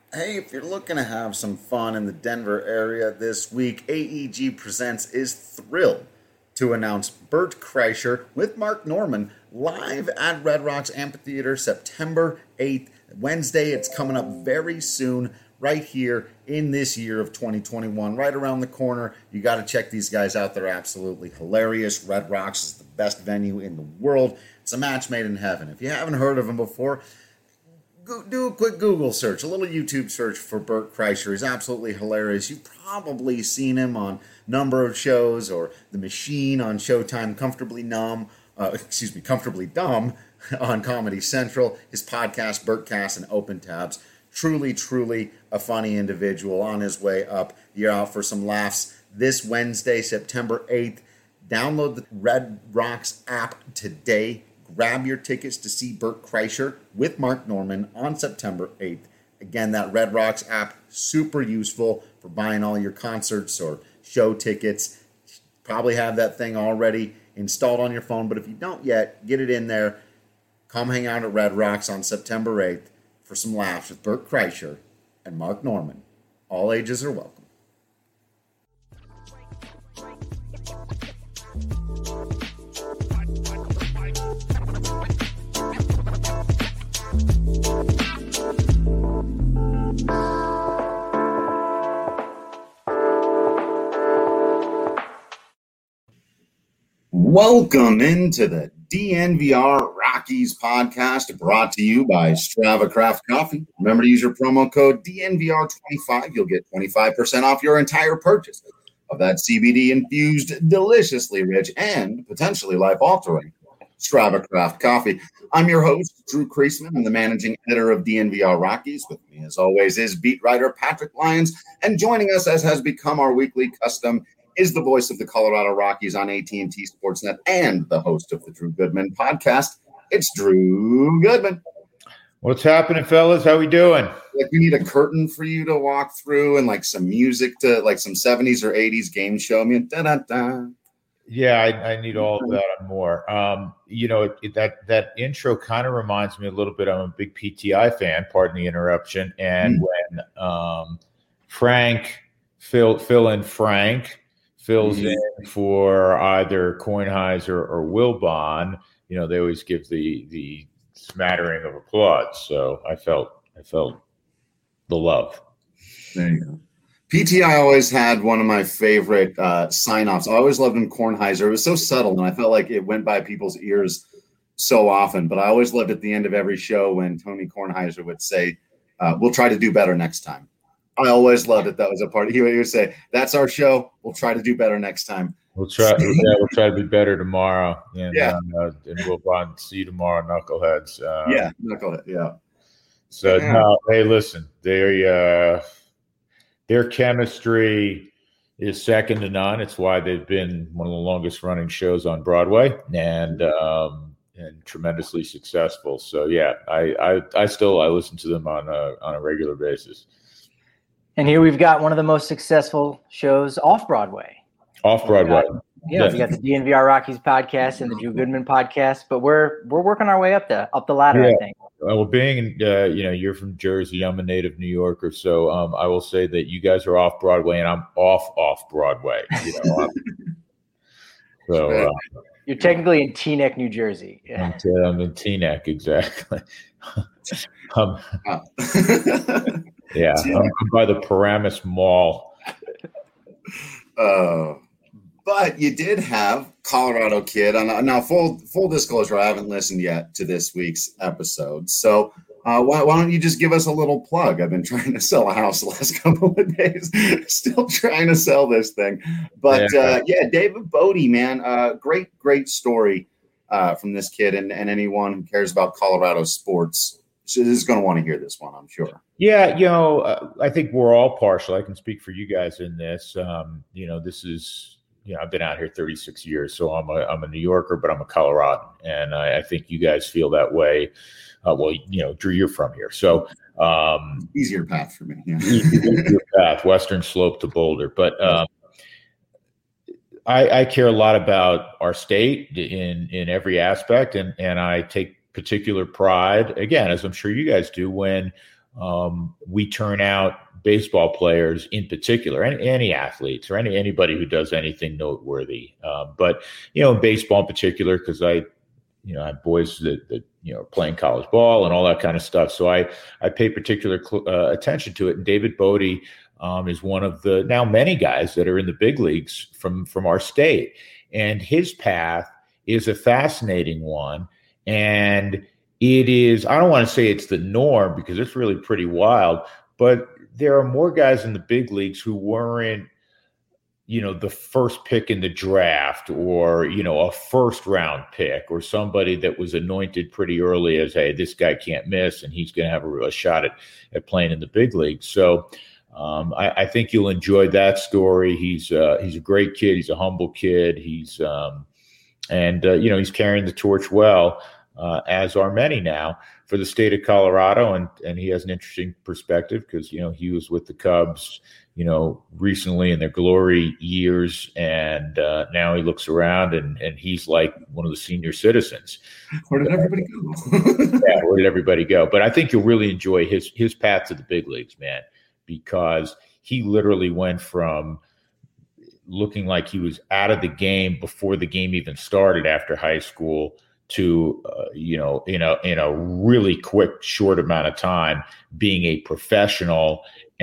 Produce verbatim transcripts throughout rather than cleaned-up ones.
Hey, if you're looking to have some fun in the Denver area this week, A E G Presents is thrilled to announce Bert Kreischer with Mark Norman live at Red Rocks Amphitheater September eighth. Wednesday, it's coming up very soon, right here in this year of twenty twenty-one, right around the corner. You got to check these guys out. They're absolutely hilarious. Red Rocks is the best venue in the world. It's a match made in heaven. If you haven't heard of them before, do a quick Google search, a little YouTube search for Bert Kreischer. He's absolutely hilarious. You've probably seen him on a number of shows, or The Machine on Showtime, Comfortably Numb, uh, excuse me, Comfortably Dumb on Comedy Central, his podcast, Bertcast, and Open Tabs. Truly, truly a funny individual on his way up. You're out for some laughs this Wednesday, September eighth. Download the Red Rocks app today. Grab your tickets to see Bert Kreischer with Mark Norman on September eighth. Again, that Red Rocks app, super useful for buying all your concerts or show tickets. Probably have that thing already installed on your phone, but if you don't yet, get it in there. Come hang out at Red Rocks on September eighth for some laughs with Bert Kreischer and Mark Norman. All ages are welcome. Welcome into the D N V R Rockies podcast, brought to you by Strava Craft Coffee. Remember to use your promo code D N V R twenty-five. You'll get twenty-five percent off your entire purchase of that C B D-infused, deliciously rich, and potentially life-altering Strava Craft Coffee. I'm your host, Drew Kreisman. I'm the managing editor of D N V R Rockies. With me, as always, is beat writer Patrick Lyons. And joining us, as has become our weekly custom, is the voice of the Colorado Rockies on A T and T Sportsnet and the host of the Drew Goodman podcast. It's Drew Goodman. What's happening, fellas? How we doing? Like, we need a curtain for you to walk through and like some music to like some seventies or eighties game show. I mean, da da da. Yeah, I, I need all of that and more. Um, you know, it, that that intro kind of reminds me a little bit. I'm a big P T I fan. Pardon the interruption. And mm. when um, Frank, Phil, Phil, and Frank. fills mm-hmm. in for either Kornheiser or Wilbon, you know, they always give the the smattering of applause. So I felt I felt the love. There you go. P T I always had one of my favorite uh, sign-offs. I always loved him, Kornheiser. It was so subtle, and I felt like it went by people's ears so often. But I always loved at the end of every show when Tony Kornheiser would say, uh, "We'll try to do better next time." I always loved it. That was a part. He would say, "That's our show. We'll try to do better next time." We'll try. yeah, we'll try to be better tomorrow. And, yeah, uh, and we'll bond, see you tomorrow, knuckleheads. Uh, yeah, knucklehead. Yeah. So yeah. no, hey, listen, their uh, their chemistry is second to none. It's why they've been one of the longest running shows on Broadway, and um, and tremendously successful. So yeah, I I, I still I listen to them on a on a regular basis. And here we've got one of the most successful shows off Broadway. Off Broadway. Got, yeah, yeah. We got the D N V R Rockies podcast and the Drew Goodman podcast, but we're we're working our way up the up the ladder, yeah. I think. Well, being uh, you know, you're from Jersey, I'm a native New Yorker, so um, I will say that you guys are off Broadway and I'm off off Broadway. You know, so uh, you're technically in Teaneck, New Jersey. Yeah. I'm, I'm in Teaneck, exactly. um, Yeah, I'm, I'm by the Paramus Mall. Uh, but you did have Colorado Kid. On, now, full full disclosure, I haven't listened yet to this week's episode. So uh, why, why don't you just give us a little plug? I've been trying to sell a house the last couple of days. Still trying to sell this thing. But, yeah, uh, yeah David Bodie, man, uh, great, great story uh, from this kid. And, and anyone who cares about Colorado sports is going to want to hear this one, I'm sure. Yeah, you know, uh, I think we're all partial. I can speak for you guys in this. Um, you know, this is, you know, I've been out here thirty-six years, so I'm a I'm a New Yorker, but I'm a Coloradan, and I, I think you guys feel that way. Uh, well, you know, Drew, you're from here, so um, easier path for me. Yeah. easier path, Western Slope to Boulder, but um, I, I care a lot about our state in in every aspect, and and I take particular pride, again, as I'm sure you guys do, when um, we turn out baseball players in particular, any, any athletes or any anybody who does anything noteworthy. Uh, but, you know, in baseball in particular, because I, you know, I have boys that, that, you know, playing college ball and all that kind of stuff. So I, I pay particular uh, attention to it. And David Bote um, is one of the now many guys that are in the big leagues from, from our state. And his path is a fascinating one. And it is, I don't want to say it's the norm because it's really pretty wild, but there are more guys in the big leagues who weren't, you know, the first pick in the draft or, you know, a first round pick or somebody that was anointed pretty early as, hey, this guy can't miss and he's going to have a, a shot at, at playing in the big leagues. So um, I, I think you'll enjoy that story. He's uh, he's a great kid. He's a humble kid. He's um, and, uh, you know, he's carrying the torch well, uh, as are many now for the state of Colorado. And, and he has an interesting perspective because, you know, he was with the Cubs, you know, recently in their glory years. And uh, now he looks around and, and he's like one of the senior citizens. Where did everybody go? Yeah, where did everybody go? But I think you'll really enjoy his his path to the big leagues, man, because he literally went from looking like he was out of the game before the game even started after high school to, uh, you know, in a, in a really quick, short amount of time, being a professional,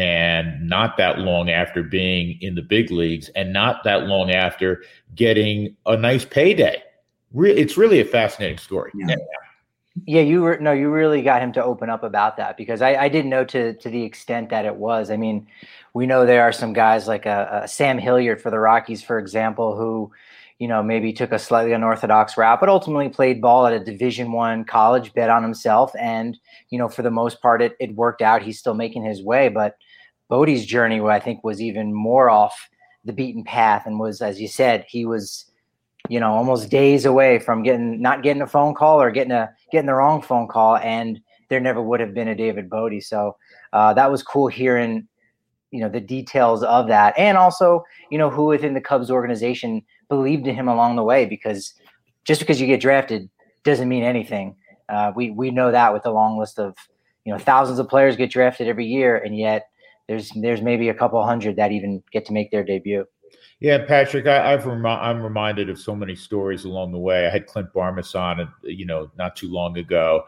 and not that long after being in the big leagues and not that long after getting a nice payday. Re- it's really a fascinating story. Yeah. Yeah, you were no, you really got him to open up about that because I, I didn't know to to the extent that it was. I mean, we know there are some guys like a, a Sam Hilliard for the Rockies, for example, who, you know, maybe took a slightly unorthodox route, but ultimately played ball at a Division One college, bet on himself, and you know, for the most part, it it worked out. He's still making his way, but Bote's journey, I think, was even more off the beaten path, and was, as you said, he was, you know, almost days away from getting not getting a phone call or getting a getting the wrong phone call, and there never would have been a David Bote. So uh, that was cool hearing, you know, the details of that, and also, you know, who within the Cubs organization believed in him along the way, because just because you get drafted doesn't mean anything. Uh, we we know that with the long list of, you know, thousands of players get drafted every year, and yet there's there's maybe a couple hundred that even get to make their debut. Yeah, Patrick, I, I've rem- I'm reminded of so many stories along the way. I had Clint Barmas on, you know, not too long ago,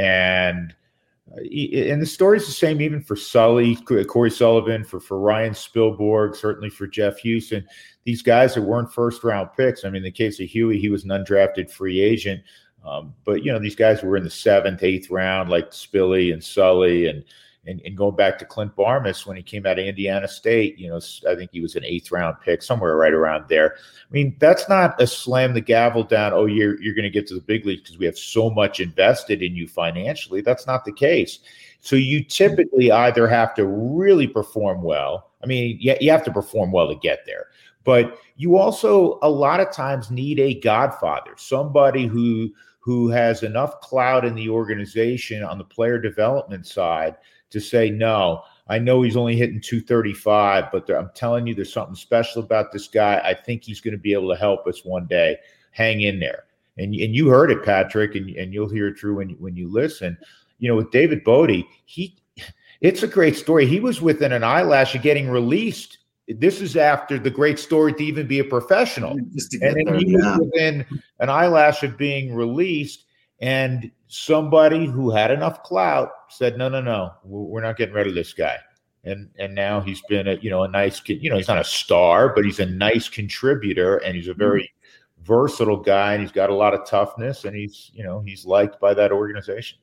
and and the story's the same even for Sully, Corey Sullivan, for for Ryan Spilborg, certainly for Jeff Houston. These guys that weren't first round picks. I mean, in the case of Huey, he was an undrafted free agent, um, but you know, these guys were in the seventh, eighth round, like Spilly and Sully, and. And, and going back to Clint Barmas, when he came out of Indiana State, you know, I think he was an eighth round pick, somewhere right around there. I mean, that's not a slam the gavel down, oh, you're you're going to get to the big leagues because we have so much invested in you financially. That's not the case. So you typically either have to really perform well. I mean, you, you have to perform well to get there. But you also, a lot of times, need a godfather, somebody who who has enough clout in the organization on the player development side to say, no, I know he's only hitting two thirty-five, but there, I'm telling you, there's something special about this guy. I think he's going to be able to help us one day. Hang in there. And, and you heard it, Patrick, and, and you'll hear it true when, when you listen. You know, with David Bote, he, it's a great story. He was within an eyelash of getting released. This is after the great story to even be a professional. And then there, he yeah. was within an eyelash of being released. And somebody who had enough clout said, no, no, no, we're not getting rid of this guy. And and now he's been a, you know, a nice kid. You know, he's not a star, but he's a nice contributor, and he's a very mm-hmm. versatile guy, and he's got a lot of toughness, and he's, you know, he's liked by that organization.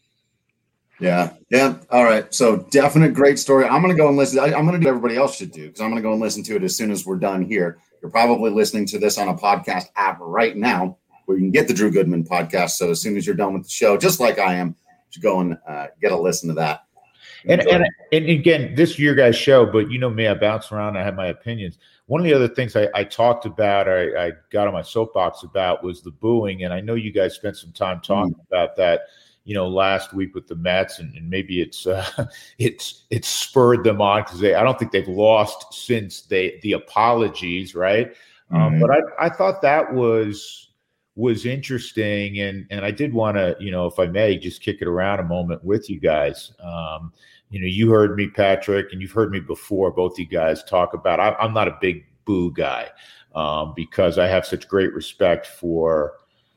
Yeah. Yeah. All right. So definite great story. I'm going to go and listen. I, I'm going to do what everybody else should do, because I'm going to go and listen to it as soon as we're done here. You're probably listening to this on a podcast app right now, where you can get the Drew Goodman podcast. So as soon as you're done with the show, just like I am, you should go and uh, get a listen to that. And, and and again, this is your guys' show, but you know me, I bounce around. I have my opinions. One of the other things I, I talked about, I, I got on my soapbox about, was the booing. And I know you guys spent some time talking mm. about that, you know, last week with the Mets, and, and maybe it's uh, it's it's spurred them on, because they I don't think they've lost since they the apologies, right? Mm-hmm. Um, but I I thought that was. was interesting, and and I did want to, you know, if I may, just kick it around a moment with you guys. Um, you know, you heard me, Patrick, and you've heard me before, both you guys talk about, I, I'm not a big boo guy um, because I have such great respect for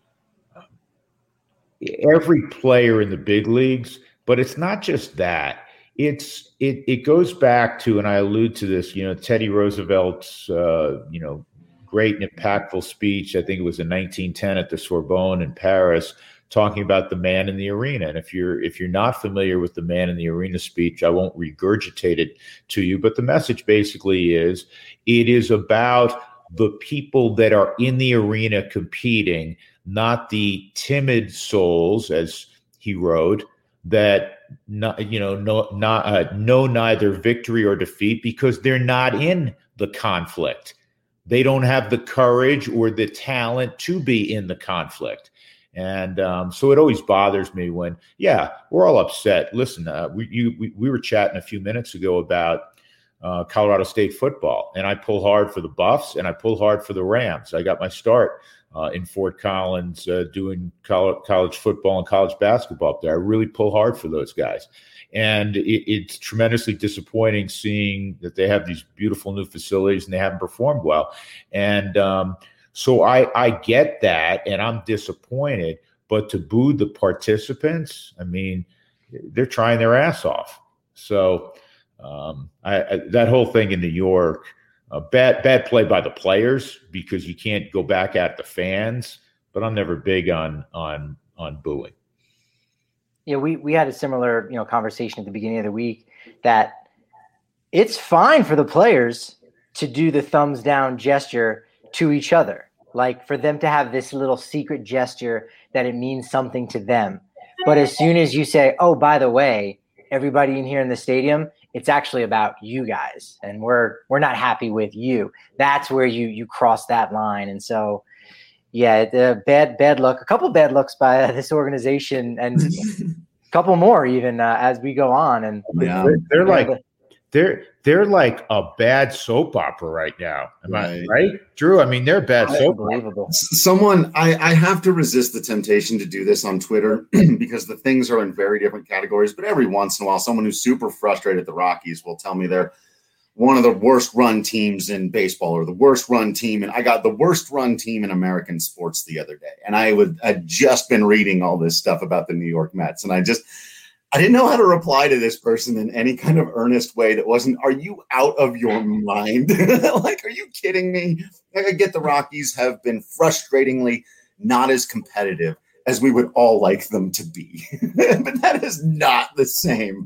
every player in the big leagues, but it's not just that. It's it it goes back to, and I allude to this, you know, Teddy Roosevelt's, uh, you know, great and impactful speech. I think it was in nineteen ten at the Sorbonne in Paris, talking about the man in the arena. And if you're if you're not familiar with the man in the arena speech, I won't regurgitate it to you. But the message basically is, it is about the people that are in the arena competing, not the timid souls, as he wrote, that not, you know, no, not uh, know neither victory or defeat because they're not in the conflict. They don't have the courage or the talent to be in the conflict. And um, so it always bothers me when, yeah, we're all upset. Listen, uh, we, you, we we were chatting a few minutes ago about uh, Colorado State football, and I pull hard for the Buffs and I pull hard for the Rams. I got my start uh, in Fort Collins uh, doing college, college football and college basketball up there. I really pull hard for those guys. And it, it's tremendously disappointing seeing that they have these beautiful new facilities and they haven't performed well. And um, so I, I get that, and I'm disappointed. But to boo the participants, I mean, they're trying their ass off. So um, I, I, that whole thing in New York, uh, bad bad play by the players because you can't go back at the fans. But I'm never big on on on booing. Yeah, we, we had a similar, you know, conversation at the beginning of the week that it's fine for the players to do the thumbs down gesture to each other, like for them to have this little secret gesture that it means something to them. But as soon as you say, oh, by the way, everybody in here in the stadium, it's actually about you guys, and we're we're not happy with you. That's where you you cross that line. And so, yeah, the bad bad luck, a couple of bad looks by uh, this organization, and a couple more even uh, as we go on. And yeah. they're, they're like they're they're like a bad soap opera right now. Am right. I right, Drew? I mean, they're a bad soap opera. Someone, I, I have to resist the temptation to do this on Twitter because the things are in very different categories. But every once in a while, someone who's super frustrated at the Rockies will tell me they're one of the worst run teams in baseball, or the worst run team. And I got the worst run team in American sports the other day. And I would had just been reading all this stuff about the New York Mets. And I just, I didn't know how to reply to this person in any kind of earnest way that wasn't, are you out of your mind? Like, are you kidding me? I get the Rockies have been frustratingly not as competitive as we would all like them to be. But that is not the same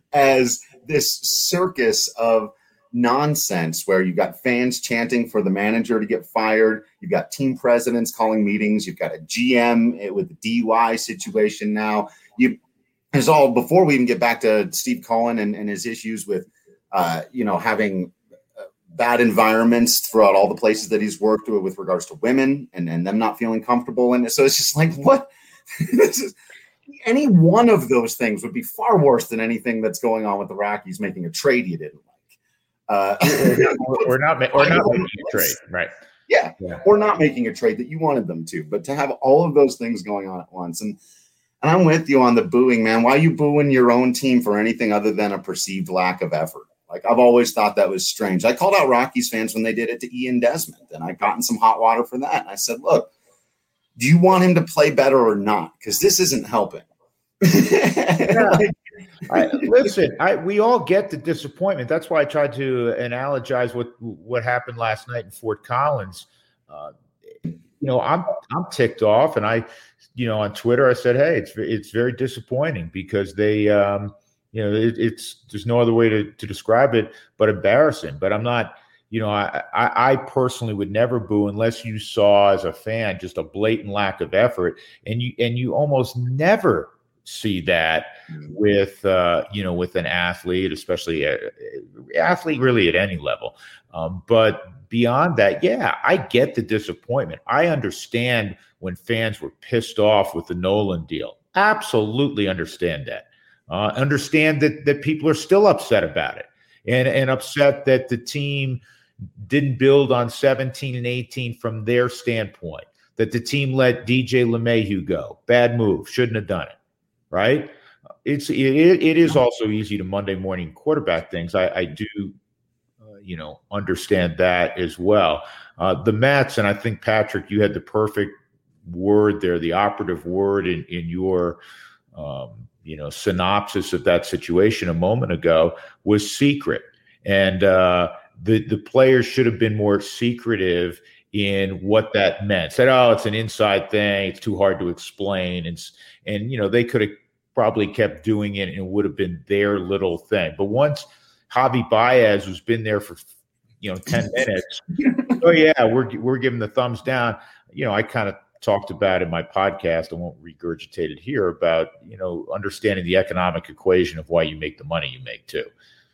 as this circus of nonsense where you've got fans chanting for the manager to get fired. You've got team presidents calling meetings. You've got a G M with a D U I situation now. You There's all, before we even get back to Steve Cohen and, and his issues with, uh, you know, having uh, bad environments throughout all the places that he's worked with, with regards to women and, and them not feeling comfortable. And so it's just like, what? This is, any one of those things would be far worse than anything that's going on with the Rockies making a trade you didn't like. Uh, or not, or not making a trade, right? Yeah, yeah, or not making a trade that you wanted them to. But to have all of those things going on at once. And And I'm with you on the booing, man. Why are you booing your own team for anything other than a perceived lack of effort? Like, I've always thought that was strange. I called out Rockies fans when they did it to Ian Desmond, and I got in some hot water for that. And I said, look, do you want him to play better or not? Because this isn't helping. Yeah. like, I, listen, I, we all get the disappointment. That's why I tried to analogize what what happened last night in Fort Collins. Uh, you know, I'm I'm ticked off, and I, you know, on Twitter I said, hey, it's it's very disappointing because they, um, you know, it, it's there's no other way to to describe it but embarrassing. But I'm not, you know, I, I I personally would never boo unless you saw as a fan just a blatant lack of effort, and you and you almost never see that with uh, you know, with an athlete, especially a, a athlete really at any level. Um, but beyond that, yeah, I get the disappointment. I understand when fans were pissed off with the Nolan deal. Absolutely understand that. Uh, understand that that people are still upset about it, and and upset that the team didn't build on seventeen and eighteen from their standpoint. that the team let D J LeMahieu go. Bad move. Shouldn't have done it, right? It's it, it is also easy to Monday morning quarterback things. I, I do, uh, you know, understand that as well. Uh, the Mets, and I think, Patrick, you had the perfect word there, the operative word in, in your, um, you know, synopsis of that situation a moment ago was secret. And uh, the, the players should have been more secretive in what that meant. Said, oh, it's an inside thing. It's too hard to explain. And, and you know, they could have probably kept doing it and it would have been their little thing. But once Javi Baez, who's been there for, you know, ten minutes, oh, yeah, we're, we're giving the thumbs down. You know, I kind of talked about in my podcast, I won't regurgitate it here, about, you know, understanding the economic equation of why you make the money you make too.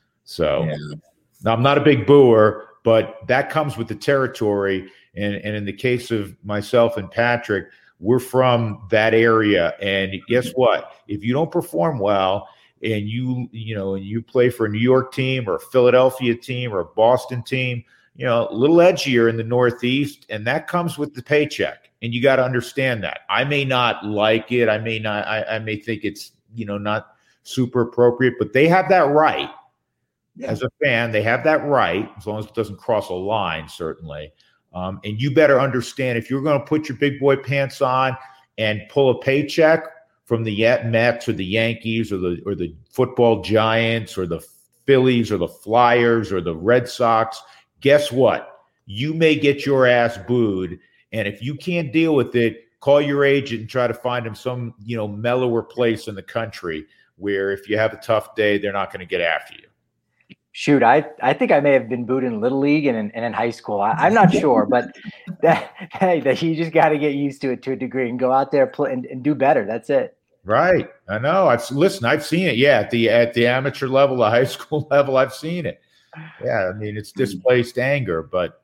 So yeah. Now I'm not a big booer, but that comes with the territory. And, and in the case of myself and Patrick, we're from that area. And guess what? If you don't perform well and you, you know, and you play for a New York team or a Philadelphia team or a Boston team, you know, a little edgier in the Northeast, and that comes with the paycheck. And you got to understand that. I may not like it. I may not, I, I may think it's, you know, not super appropriate, but they have that right. Yeah. As a fan, they have that right, as long as it doesn't cross a line, certainly. Um, and you better understand, if you're going to put your big boy pants on and pull a paycheck from the Mets or the Yankees or the or the football Giants or the Phillies or the Flyers or the Red Sox, guess what? You may get your ass booed. And if you can't deal with it, call your agent and try to find him some, you know, mellower place in the country where if you have a tough day, they're not going to get after you. Shoot, I, I think I may have been booed in Little League and in, and in high school. I, I'm not sure, but that, hey, that you just got to get used to it to a degree and go out there play and, and do better. That's it. Right. I know. I've listen, I've seen it. Yeah. At the, at the amateur level, the high school level, I've seen it. Yeah. I mean, it's displaced anger, but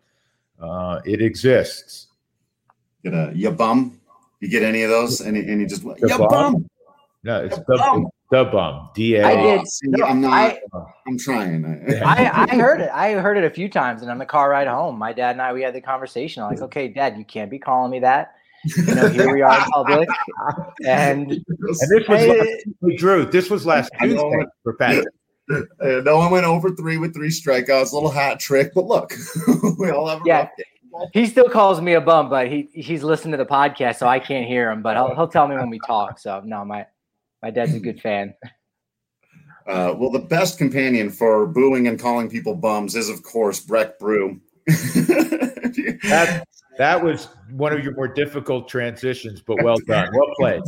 uh, it exists. Get a, ya bum. You get any of those? And, and you just, ya bum. bum. No, it's the bum. The bum. D A. I did. No, I'm not. I, I'm trying. I, I heard it. I heard it a few times, and on the car ride home, my dad and I we had the conversation. I'm like, okay, Dad, you can't be calling me that. You know, here we are in public, and, and this was hey, last, Drew. This was last Tuesday for Patrick. No one went over three with three strikeouts. A little hat trick, but look, we all have a yeah. rough day. He still calls me a bum, but he he's listening to the podcast, so I can't hear him. But he'll he'll tell me when we talk. So no, my. My dad's a good fan. Uh, well, the best companion for booing and calling people bums is, of course, Breck Brew. that, that was one of your more difficult transitions, but well done. Well played.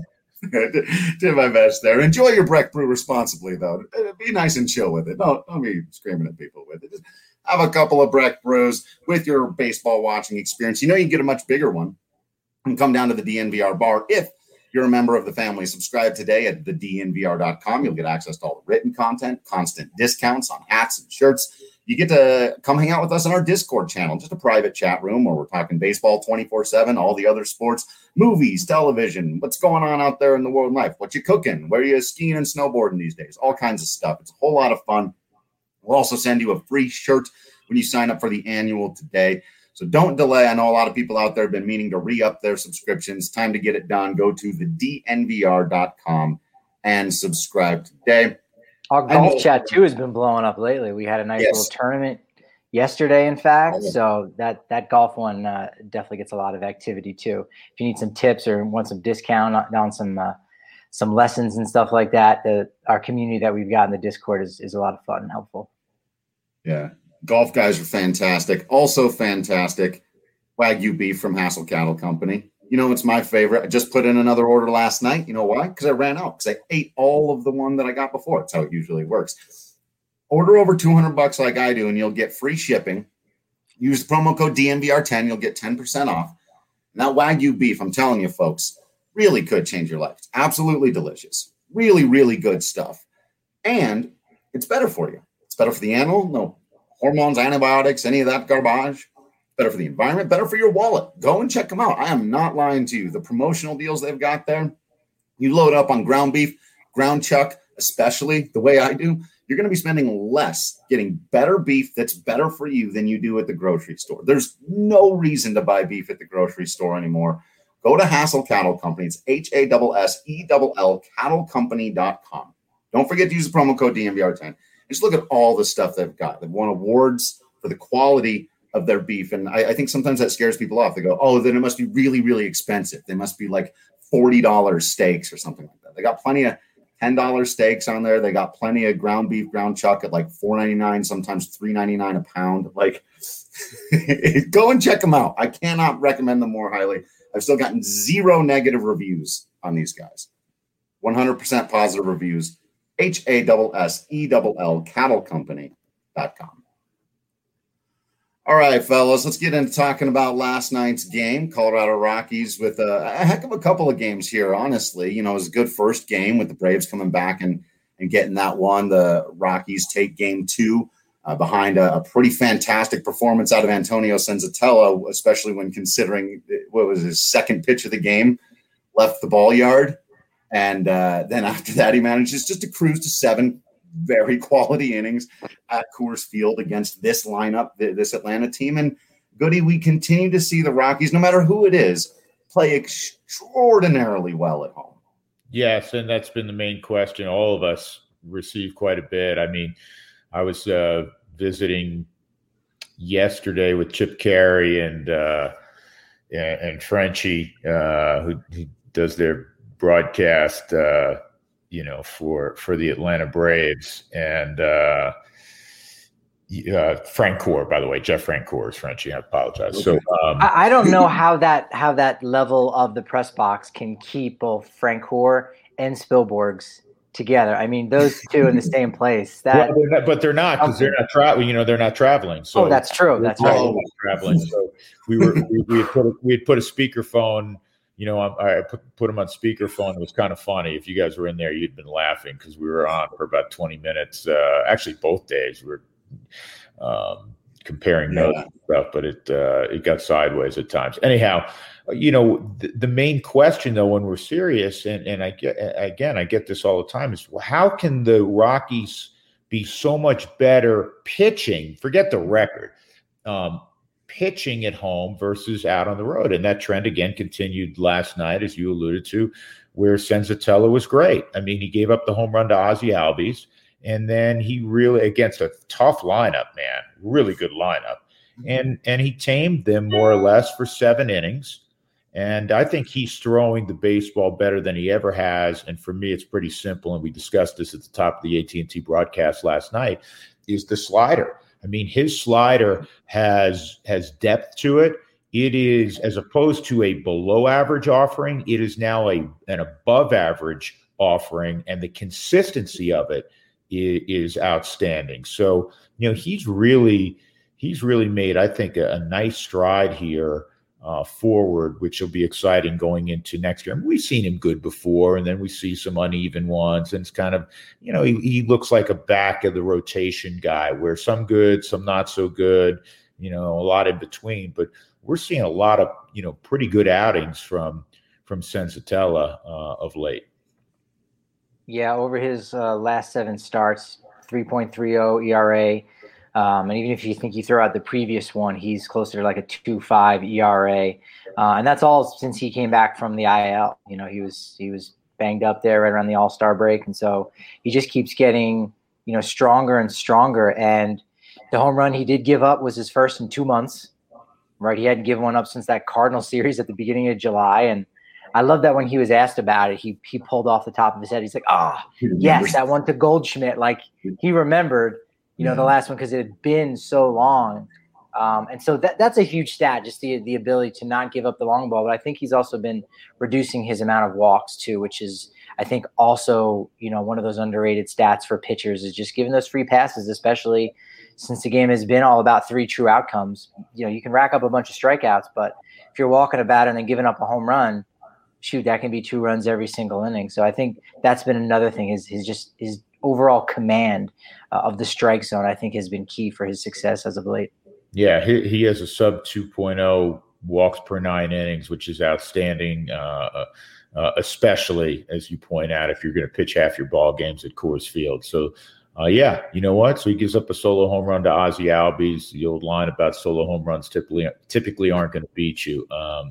Did my best there. Enjoy your Breck Brew responsibly, though. Be nice and chill with it. Don't, don't be screaming at people with it. Just have a couple of Breck Brews with your baseball watching experience. You know you can get a much bigger one and come down to the D N V R bar if you're a member of the family. Subscribe today at the D N V R dot com. You'll get access to all the written content, constant discounts on hats and shirts. You get to come hang out with us in our Discord channel, just a private chat room where we're talking baseball twenty-four seven, all the other sports, movies, television, what's going on out there in the world of life, what you cooking, where you skiing and snowboarding these days, all kinds of stuff. It's a whole lot of fun. We'll also send you a free shirt when you sign up for the annual today. So don't delay. I know a lot of people out there have been meaning to re-up their subscriptions. Time to get it done. Go to the D N V R dot com and subscribe today. Our golf chat, too, has been blowing up lately. We had a nice yes. little tournament yesterday, in fact. Oh, yeah. So that, that golf one uh, definitely gets a lot of activity, too. If you need some tips or want some discount on some uh, some lessons and stuff like that, the, our community that we've got in the Discord is, is a lot of fun and helpful. Yeah. Golf guys are fantastic. Also fantastic, Wagyu beef from Hassel Cattle Company. You know, it's my favorite. I just put in another order last night. You know why? Because I ran out. Because I ate all of the one that I got before. That's how it usually works. Order over two hundred bucks like I do, and you'll get free shipping. Use the promo code D N V R ten. You'll get ten percent off. And that Wagyu beef, I'm telling you, folks, really could change your life. It's absolutely delicious. Really, really good stuff. And it's better for you. It's better for the animal. No hormones, antibiotics, any of that garbage. Better for the environment, better for your wallet. Go and check them out. I am not lying to you. The promotional deals they've got there, you load up on ground beef, ground chuck, especially the way I do, you're going to be spending less getting better beef that's better for you than you do at the grocery store. There's no reason to buy beef at the grocery store anymore Go to Hassell Cattle Company. It's H A S S E L L cattle company dot com. Don't forget to use the promo code D M V R ten. Just look at all the stuff they've got. They've won awards for the quality of their beef. And I, I think sometimes that scares people off. They go, oh, then it must be really, really expensive. They must be like forty dollars steaks or something like that. They got plenty of ten dollars steaks on there. They got plenty of ground beef, ground chuck at like four ninety-nine, sometimes three ninety-nine a pound. Like, go and check them out. I cannot recommend them more highly. I've still gotten zero negative reviews on these guys. one hundred percent positive reviews. H A S S E L L cattle company dot com. All right, fellas, let's get into talking about last night's game. Colorado Rockies with a, a heck of a couple of games here, honestly. You know, it was a good first game with the Braves coming back and, and getting that one. The Rockies take game two uh, behind a, a pretty fantastic performance out of Antonio Senzatella, especially when considering what was his second pitch of the game, left the ball yard. And uh, then after that, he manages just to cruise to seven very quality innings at Coors Field against this lineup, this Atlanta team. And Goody, we continue to see the Rockies, no matter who it is, play extraordinarily well at home. Yes, and that's been the main question. All of us receive quite a bit. I mean, I was uh, visiting yesterday with Chip Carey and uh, and Frenchie, uh, who, who does their broadcast uh you know, for, for the Atlanta Braves and uh, uh, Francoeur, by the way, Jeff Francoeur is Frenchie. I apologize. Okay. So um, I, I don't know how that how that level of the press box can keep both Francoeur and Spielborgs together. I mean, those two in the same place. That, well, they're not, but they're not because they're not traveling. You know, they're not traveling. So oh, that's true. That's right. Traveling. So we were we, we had put a, we had put a speakerphone. You know, I, I put, put him on speakerphone. It was kind of funny. If you guys were in there, you'd been laughing because we were on for about twenty minutes. Uh, actually, both days we were um, comparing notes yeah. and stuff, but it uh, it got sideways at times. Anyhow, you know, the, the main question though, when we're serious, and and I get again, I get this all the time, is well, how can the Rockies be so much better pitching? Forget the record. Um, pitching at home versus out on the road. And that trend again continued last night, as you alluded to, where Senzatella was great. I mean, he gave up the home run to Ozzie Albies, and then he really, against a tough lineup, man, really good lineup. And, and he tamed them more or less for seven innings. And I think he's throwing the baseball better than he ever has. And for me, it's pretty simple. And we discussed this at the top of the A T and T broadcast last night, is the slider. I mean, his slider has has depth to it. It is, as opposed to a below average offering, it is now a an above average offering, and the consistency of it is, is outstanding. So, you know, he's really he's really made, I think, a, a nice stride here uh, forward, which will be exciting going into next year. I mean, we've seen him good before, and then we see some uneven ones, and it's kind of, you know, he, he looks like a back of the rotation guy where some good, some not so good, you know, a lot in between. But we're seeing a lot of, you know, pretty good outings from from Senzatella uh, of late. Yeah, over his uh, last seven starts, three point three oh E R A. Um, and even if you think you throw out the previous one, he's closer to like a two point five E R A. Uh, and that's all since he came back from the I L. You know, he was he was banged up there right around the All-Star break. And so he just keeps getting, you know, stronger and stronger. And the home run he did give up was his first in two months, right? He hadn't given one up since that Cardinal series at the beginning of July. And I love that when he was asked about it, he he pulled off the top of his head. He's like, oh, yes, that one to Goldschmidt. Like he remembered, you know, the last one because it had been so long. Um, and so that that's a huge stat, just the the ability to not give up the long ball. But I think he's also been reducing his amount of walks too, which is, I think, also, you know, one of those underrated stats for pitchers is just giving those free passes, especially since the game has been all about three true outcomes. You know, you can rack up a bunch of strikeouts, but if you're walking about and then giving up a home run, shoot, that can be two runs every single inning. So I think that's been another thing, is his just his overall command uh, of the strike zone, I think, has been key for his success as of late. Yeah, he, he has a sub two point oh walks per nine innings, which is outstanding, uh, uh, especially, as you point out, if you're going to pitch half your ball games at Coors Field. So, uh, yeah, you know what? So he gives up a solo home run to Ozzie Albies. The old line about solo home runs typically typically aren't going to beat you. Um,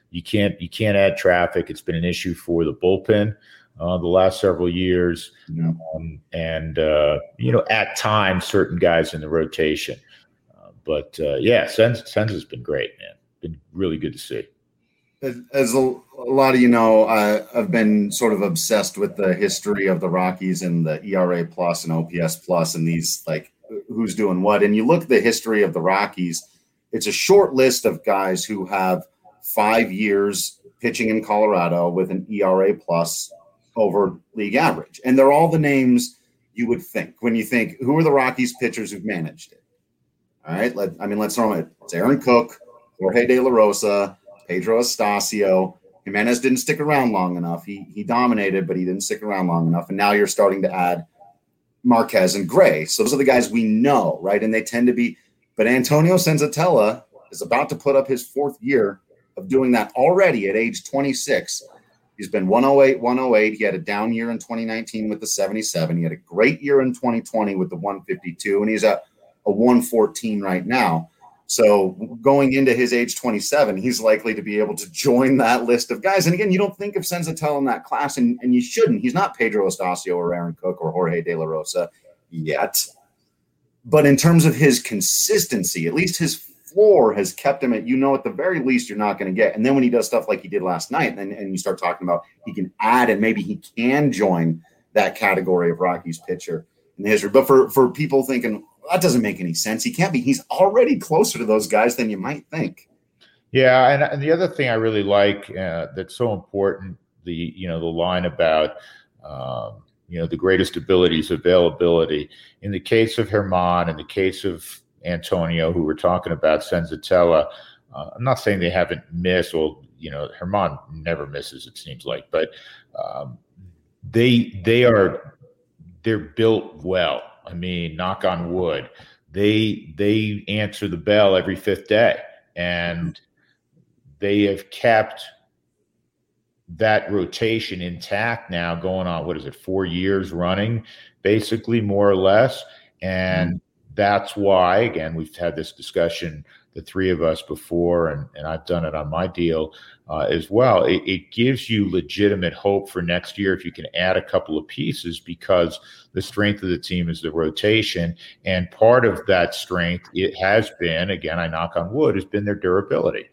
You can't you can't add traffic. It's been an issue for the bullpen uh, the last several years, Yeah. um, and uh, you know, at times certain guys in the rotation. Uh, but uh, yeah, Sens Sens has been great, man. Been really good to see. As, as a, a lot of you know, I, I've been sort of obsessed with the history of the Rockies and the E R A plus and O P S plus and these, like, who's doing what. And you look at the history of the Rockies, it's a short list of guys who have five years pitching in Colorado with an E R A plus over league average. And they're all the names you would think when you think, who are the Rockies pitchers who've managed it? All right. Let, I mean, let's throw it. It's Aaron Cook, Jorge De La Rosa, Pedro Estacio. Jimenez didn't stick around long enough. He he dominated, but he didn't stick around long enough. And now you're starting to add Marquez and Gray. So those are the guys we know, right? And they tend to be – but Antonio Senzatella is about to put up his fourth year of doing that already at age twenty-six. He's been one oh eight, one oh eight. He had a down year in twenty nineteen with the seventy-seven. He had a great year in twenty twenty with the one fifty-two, and he's at a one fourteen right now. So going into his age twenty-seven, he's likely to be able to join that list of guys. And again, you don't think of Senzatella in that class, and, and you shouldn't. He's not Pedro Estacio or Aaron Cook or Jorge De La Rosa yet. But in terms of his consistency, at least his floor has kept him at, you know, at the very least you're not going to get. And then when he does stuff like he did last night, and, and you start talking about he can add and maybe he can join that category of Rockies pitcher in the history. But for, for people thinking, that doesn't make any sense. He can't be. He's already closer to those guys than you might think. Yeah, and, and the other thing I really like uh, that's so important, the you know the line about um, you know the greatest abilities availability. In the case of Germán, in the case of Antonio, who we're talking about, Senzatella, uh, I'm not saying they haven't missed. Well, you know, Germán never misses, it seems like, but um, they they are they're built well. I mean, knock on wood, they they answer the bell every fifth day, and they have kept that rotation intact now going on, what is it, four years running, basically, more or less. And mm-hmm. that's why, again, we've had this discussion, the three of us before, and, and I've done it on my deal uh, as well. It, it gives you legitimate hope for next year if you can add a couple of pieces, because the strength of the team is the rotation. And part of that strength, it has been, again, I knock on wood, has been their durability.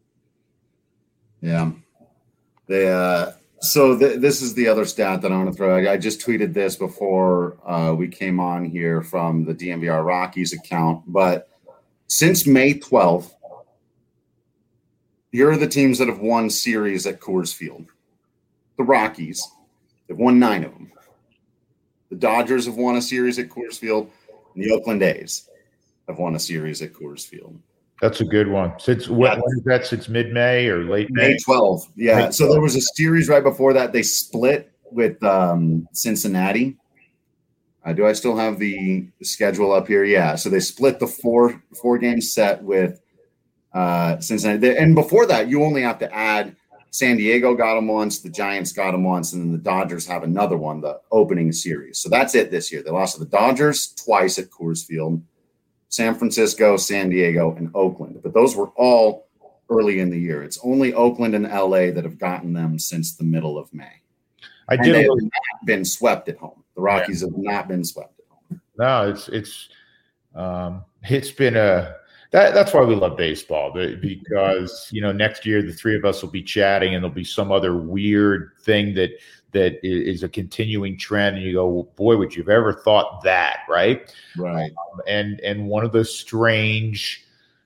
Yeah. They, uh, so th- this is the other stat that I want to throw out. I just tweeted this before uh, we came on here from the D M V R Rockies account, but since May twelfth, here are the teams that have won series at Coors Field. The Rockies, they've won nine of them. The Dodgers have won a series at Coors Field, and the Oakland A's have won a series at Coors Field. That's a good one. Since when, when is that? Since mid-May or late May? May twelfth. Yeah. May so there was a series right before that. They split with um, Cincinnati. Uh, do I still have the schedule up here? Yeah. So they split the four four game set with uh, Cincinnati. And before that, you only have to add San Diego got them once, the Giants got them once, and then the Dodgers have another one, the opening series. So that's it this year. They lost to the Dodgers twice at Coors Field, San Francisco, San Diego, and Oakland. But those were all early in the year. It's only Oakland and L A that have gotten them since the middle of May. I and did they have little- not been swept at home. The Rockies yeah. have not been swept at home. No, it's it's um, it's been a that that's why we love baseball, because you know next year the three of us will be chatting and there'll be some other weird thing that that is a continuing trend, and you go, well, boy, would you have ever thought that, right? Right. Um, and and one of the strange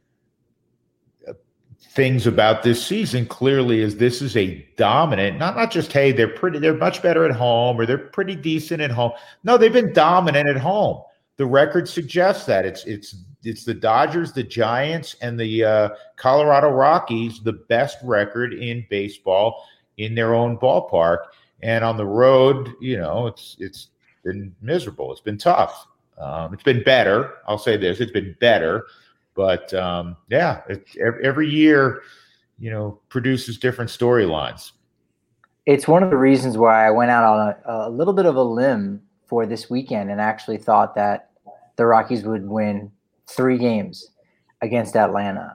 things about this season clearly is this is a dominant, not not just, hey, they're pretty, they're much better at home, or they're pretty decent at home. No, they've been dominant at home. The record suggests that it's it's it's the Dodgers, the Giants, and the uh, Colorado Rockies, the best record in baseball in their own ballpark. And on the road, you know, it's it's been miserable. It's been tough. Um, it's been better. I'll say this: it's been better. But um, yeah, it, every year, you know, produces different storylines. It's one of the reasons why I went out on a, a little bit of a limb for this weekend and actually thought that the Rockies would win three games against Atlanta.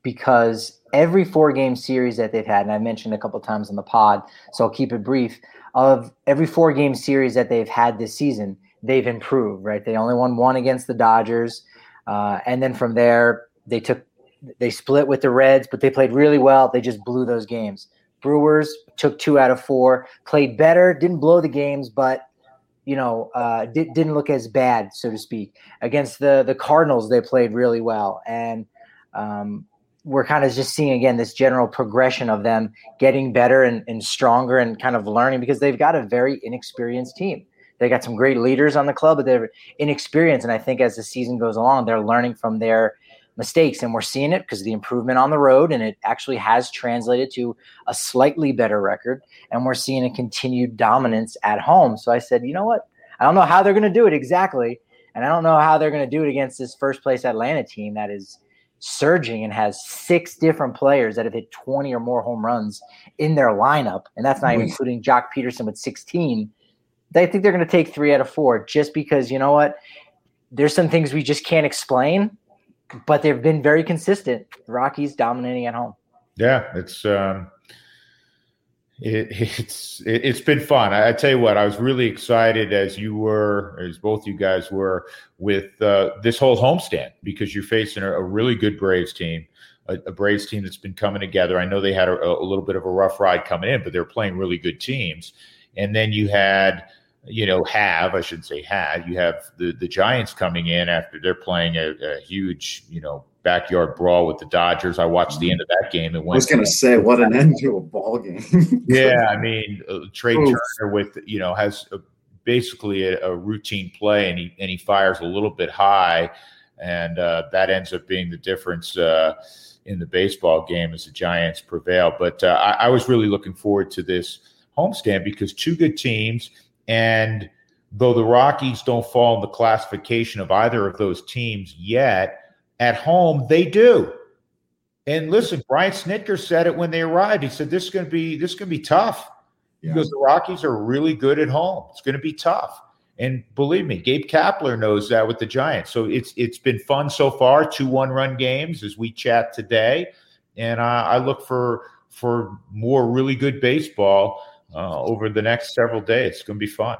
because every four-game series that they've had, and I mentioned a couple times on the pod, so I'll keep it brief, of every four-game series that they've had this season, they've improved, right? They only won one against the Dodgers, uh, and then from there, they took they split with the Reds, but they played really well. They just blew those games. Brewers took two out of four, played better, didn't blow the games, but you know, uh, di- didn't look as bad, so to speak. Against the the Cardinals, they played really well, and um, we're kind of just seeing again this general progression of them getting better and, and stronger and kind of learning, because they've got a very inexperienced team. They got some great leaders on the club, but they're inexperienced, and I think as the season goes along, they're learning from their mistakes, and we're seeing it because of the improvement on the road, and it actually has translated to a slightly better record, and we're seeing a continued dominance at home. So I said, you know what? I don't know how they're going to do it exactly, and I don't know how they're going to do it against this first-place Atlanta team that is surging and has six different players that have hit twenty or more home runs in their lineup, and that's not even including Jock Peterson with sixteen. They think they're going to take three out of four just because, you know what? There's some things we just can't explain, but they've been very consistent. The Rockies dominating at home. Yeah, it's um, it, it's it, it's been fun. I, I tell you what, I was really excited, as you were, as both you guys were, with uh, this whole homestand, because you're facing a, a really good Braves team, a, a Braves team that's been coming together. I know they had a, a little bit of a rough ride coming in, but they're playing really good teams. And then you had, you know, have, I should say had, you have the, the Giants coming in after they're playing a, a huge, you know, backyard brawl with the Dodgers. I watched the end of that game. It went. I was going to say, what an end to a ball game. Yeah, I mean, uh, Trey Oof. Turner with, you know, has a, basically a, a routine play, and he and he fires a little bit high, and uh, that ends up being the difference uh, in the baseball game as the Giants prevail. But uh, I, I was really looking forward to this homestand because two good teams. And though the Rockies don't fall in the classification of either of those teams yet, at home they do. And listen, Brian Snitker said it when they arrived. He said, "This is going to be this is going to be tough." Yeah. Because the Rockies are really good at home. It's going to be tough. And believe me, Gabe Kapler knows that with the Giants. So it's it's been fun so far. Two one-run games as we chat today, and uh, I look for for more really good baseball Uh, over the next several days. It's going to be fun.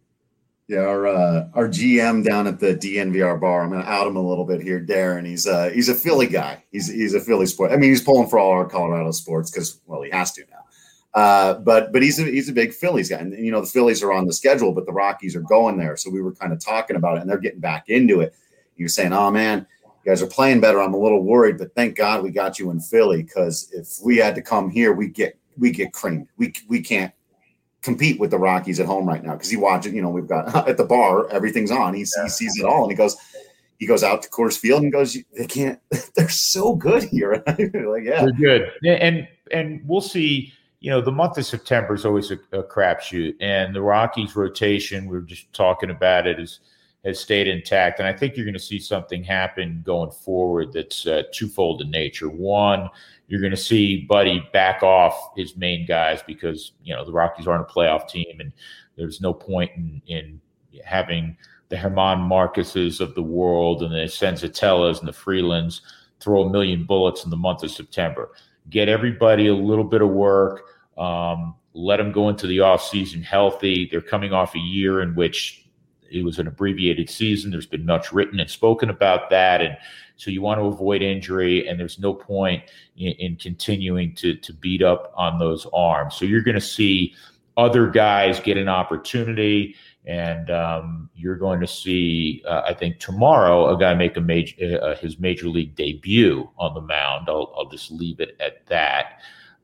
Yeah, our uh, our G M down at the D N V R bar, I'm going to out him a little bit here, Darren. He's uh, he's a Philly guy. He's he's a Philly sport. I mean, he's pulling for all our Colorado sports because, well, he has to now. Uh, but but he's a he's a big Phillies guy, and you know the Phillies are on the schedule, but the Rockies are going there. So we were kind of talking about it, and they're getting back into it. He was saying, "Oh man, you guys are playing better. I'm a little worried, but thank God we got you in Philly, because if we had to come here, we get we get creamed. We we can't compete with the Rockies at home right now," because he watches, you know, we've got at the bar, everything's on. He, yeah. he sees it all, and he goes, he goes out to Coors Field and goes, "They can't. They're so good here." Like, yeah, they're good, and and we'll see. You know, the month of September is always a, a crapshoot, and the Rockies rotation, we were just talking about it, is has stayed intact, and I think you're going to see something happen going forward that's uh, twofold in nature. One, you're going to see Buddy back off his main guys because, you know, the Rockies aren't a playoff team, and there's no point in, in having the Herman Marcuses of the world and the Senzatellas and the Freelands throw a million bullets in the month of September. Get everybody a little bit of work. Um, let them go into the offseason healthy. They're coming off a year in which it was an abbreviated season. There's been much written and spoken about that. And so you want to avoid injury, and there's no point in, in continuing to, to beat up on those arms. So you're going to see other guys get an opportunity, and um, you're going to see, uh, I think tomorrow, a guy make a major, uh, his major league debut on the mound. I'll, I'll just leave it at that.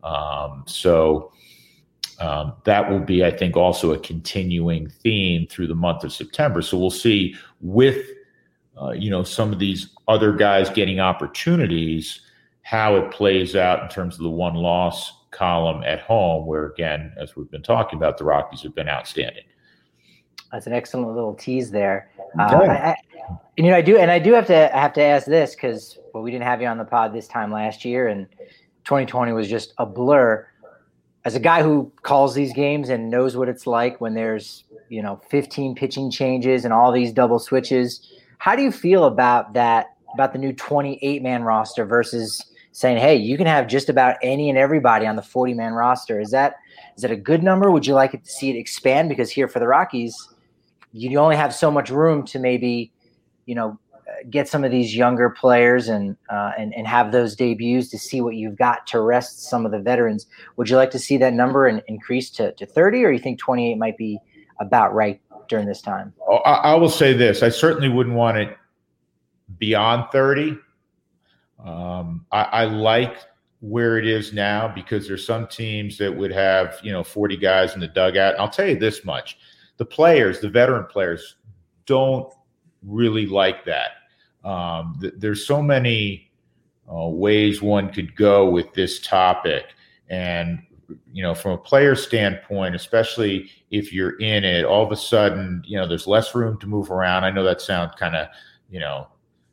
Um, so Um, that will be, I think, also a continuing theme through the month of September. So we'll see with, uh, you know, some of these other guys getting opportunities, how it plays out in terms of the one-loss column at home, where, again, as we've been talking about, the Rockies have been outstanding. That's an excellent little tease there. Uh, I, I, and, you know, I do, and I do have to I have to ask this because, well, we didn't have you on the pod this time last year, and twenty twenty was just a blur. As a guy who calls these games and knows what it's like when there's, you know, fifteen pitching changes and all these double switches, how do you feel about that, about the new twenty-eight man roster versus saying, hey, you can have just about any and everybody on the forty-man roster. Is that is that a good number? Would you like it to see it expand? Because here for the Rockies, you only have so much room to maybe, you know, get some of these younger players and uh, and and have those debuts to see what you've got to rest some of the veterans. Would you like to see that number in, increase to, to thirty, or you think twenty-eight might be about right during this time? Oh, I, I will say this. I certainly wouldn't want it beyond thirty. Um, I, I like where it is now because there's some teams that would have, you know, forty guys in the dugout. And I'll tell you this much. The players, the veteran players, don't really like that. Um, th- there's so many uh, ways one could go with this topic. And, you know, from a player standpoint, especially if you're in it, all of a sudden, you know, there's less room to move around. I know that sounds kind of, you know,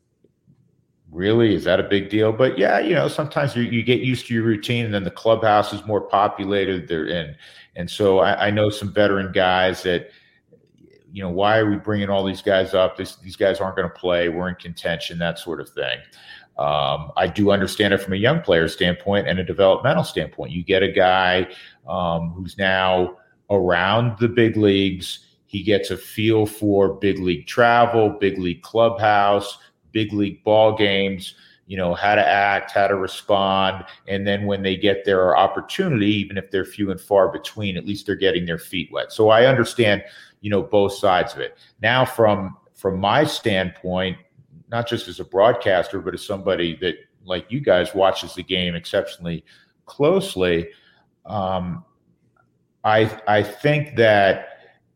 really, is that a big deal? But yeah, you know, sometimes you, you get used to your routine, and then the clubhouse is more populated there. And, and so I, I know some veteran guys that, you know, why are we bringing all these guys up? This, these guys aren't going to play. We're in contention, that sort of thing. Um, I do understand it from a young player standpoint and a developmental standpoint. You get a guy um, who's now around the big leagues. He gets a feel for big league travel, big league clubhouse, big league ball games, you know, how to act, how to respond. And then when they get their opportunity, even if they're few and far between, at least they're getting their feet wet. So I understand, you know, both sides of it. Now, from from my standpoint, not just as a broadcaster, but as somebody that, like you guys, watches the game exceptionally closely, um, I I think that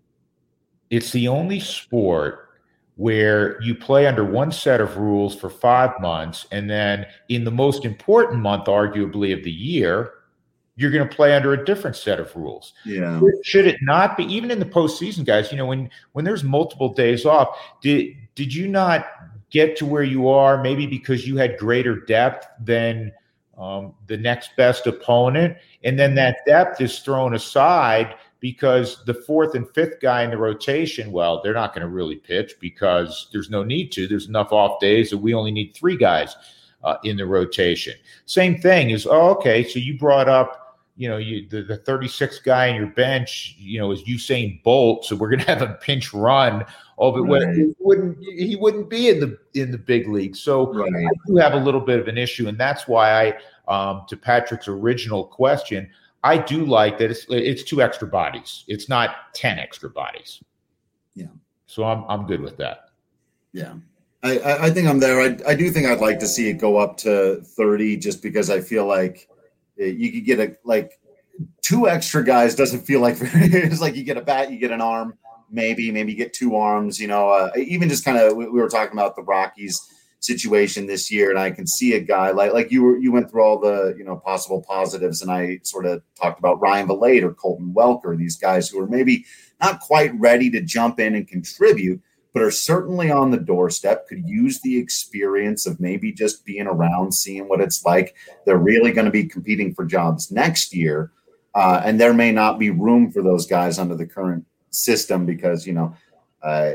it's the only sport where you play under one set of rules for five months, and then in the most important month, arguably, of the year, you're going to play under a different set of rules. Yeah. Should it not be, even in the postseason, guys, you know, when, when there's multiple days off, did, did you not get to where you are maybe because you had greater depth than um, the next best opponent? And then that depth is thrown aside because the fourth and fifth guy in the rotation, well, they're not going to really pitch because there's no need to. There's enough off days that we only need three guys uh, in the rotation. Same thing is, oh, okay, so you brought up, you know, you the, the thirty-sixth guy in your bench, you know, is Usain Bolt, so we're going to have a pinch run of it. Right. He wouldn't he wouldn't be in the in the big league. So right. I do have a little bit of an issue, and that's why I, um, to Patrick's original question, I do like that it's it's two extra bodies. It's not ten extra bodies. Yeah. So I'm I'm good with that. Yeah. I, I think I'm there. I, I do think I'd like to see it go up to thirty just because I feel like you could get a like two extra guys doesn't feel like it's like you get a bat, you get an arm, maybe, maybe you get two arms, you know, uh, even just kind of we, we were talking about the Rockies situation this year, and I can see a guy like like you were you went through all the you know possible positives, and I sort of talked about Ryan Valade or Colton Welker, these guys who are maybe not quite ready to jump in and contribute, but are certainly on the doorstep, could use the experience of maybe just being around, seeing what it's like. They're really going to be competing for jobs next year, uh, and there may not be room for those guys under the current system because you know. Uh,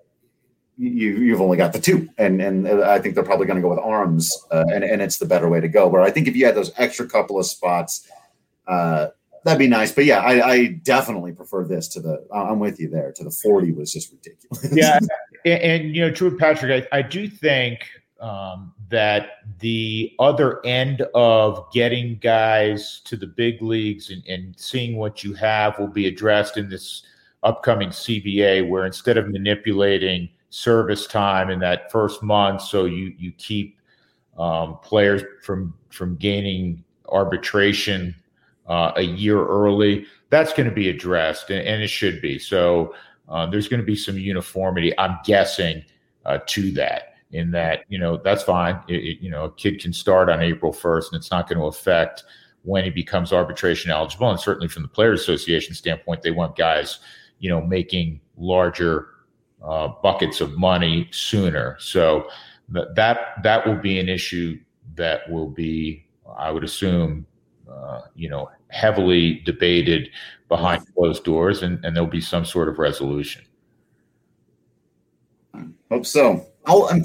You, you've only got the two, and and I think they're probably going to go with arms, uh, and, and it's the better way to go. Where I think if you had those extra couple of spots, uh, that'd be nice. But yeah, I, I definitely prefer this to the – I'm with you there. To the forty was just ridiculous. Yeah, and, and you know, true, Patrick, I, I do think um, that the other end of getting guys to the big leagues and, and seeing what you have will be addressed in this upcoming C B A, where instead of manipulating – service time in that first month, so you you keep um, players from from gaining arbitration uh, a year early. That's going to be addressed, and, and it should be. So uh, there's going to be some uniformity, I'm guessing, uh, to that. In that, you know, that's fine. It, it, you know, a kid can start on April first, and it's not going to affect when he becomes arbitration eligible. And certainly, from the Players Association standpoint, they want guys, you know, making larger Uh, buckets of money sooner. So th- that that will be an issue that will be, I would assume, uh, you know, heavily debated behind closed doors, and, and there'll be some sort of resolution. Hope so. I'll, in fact,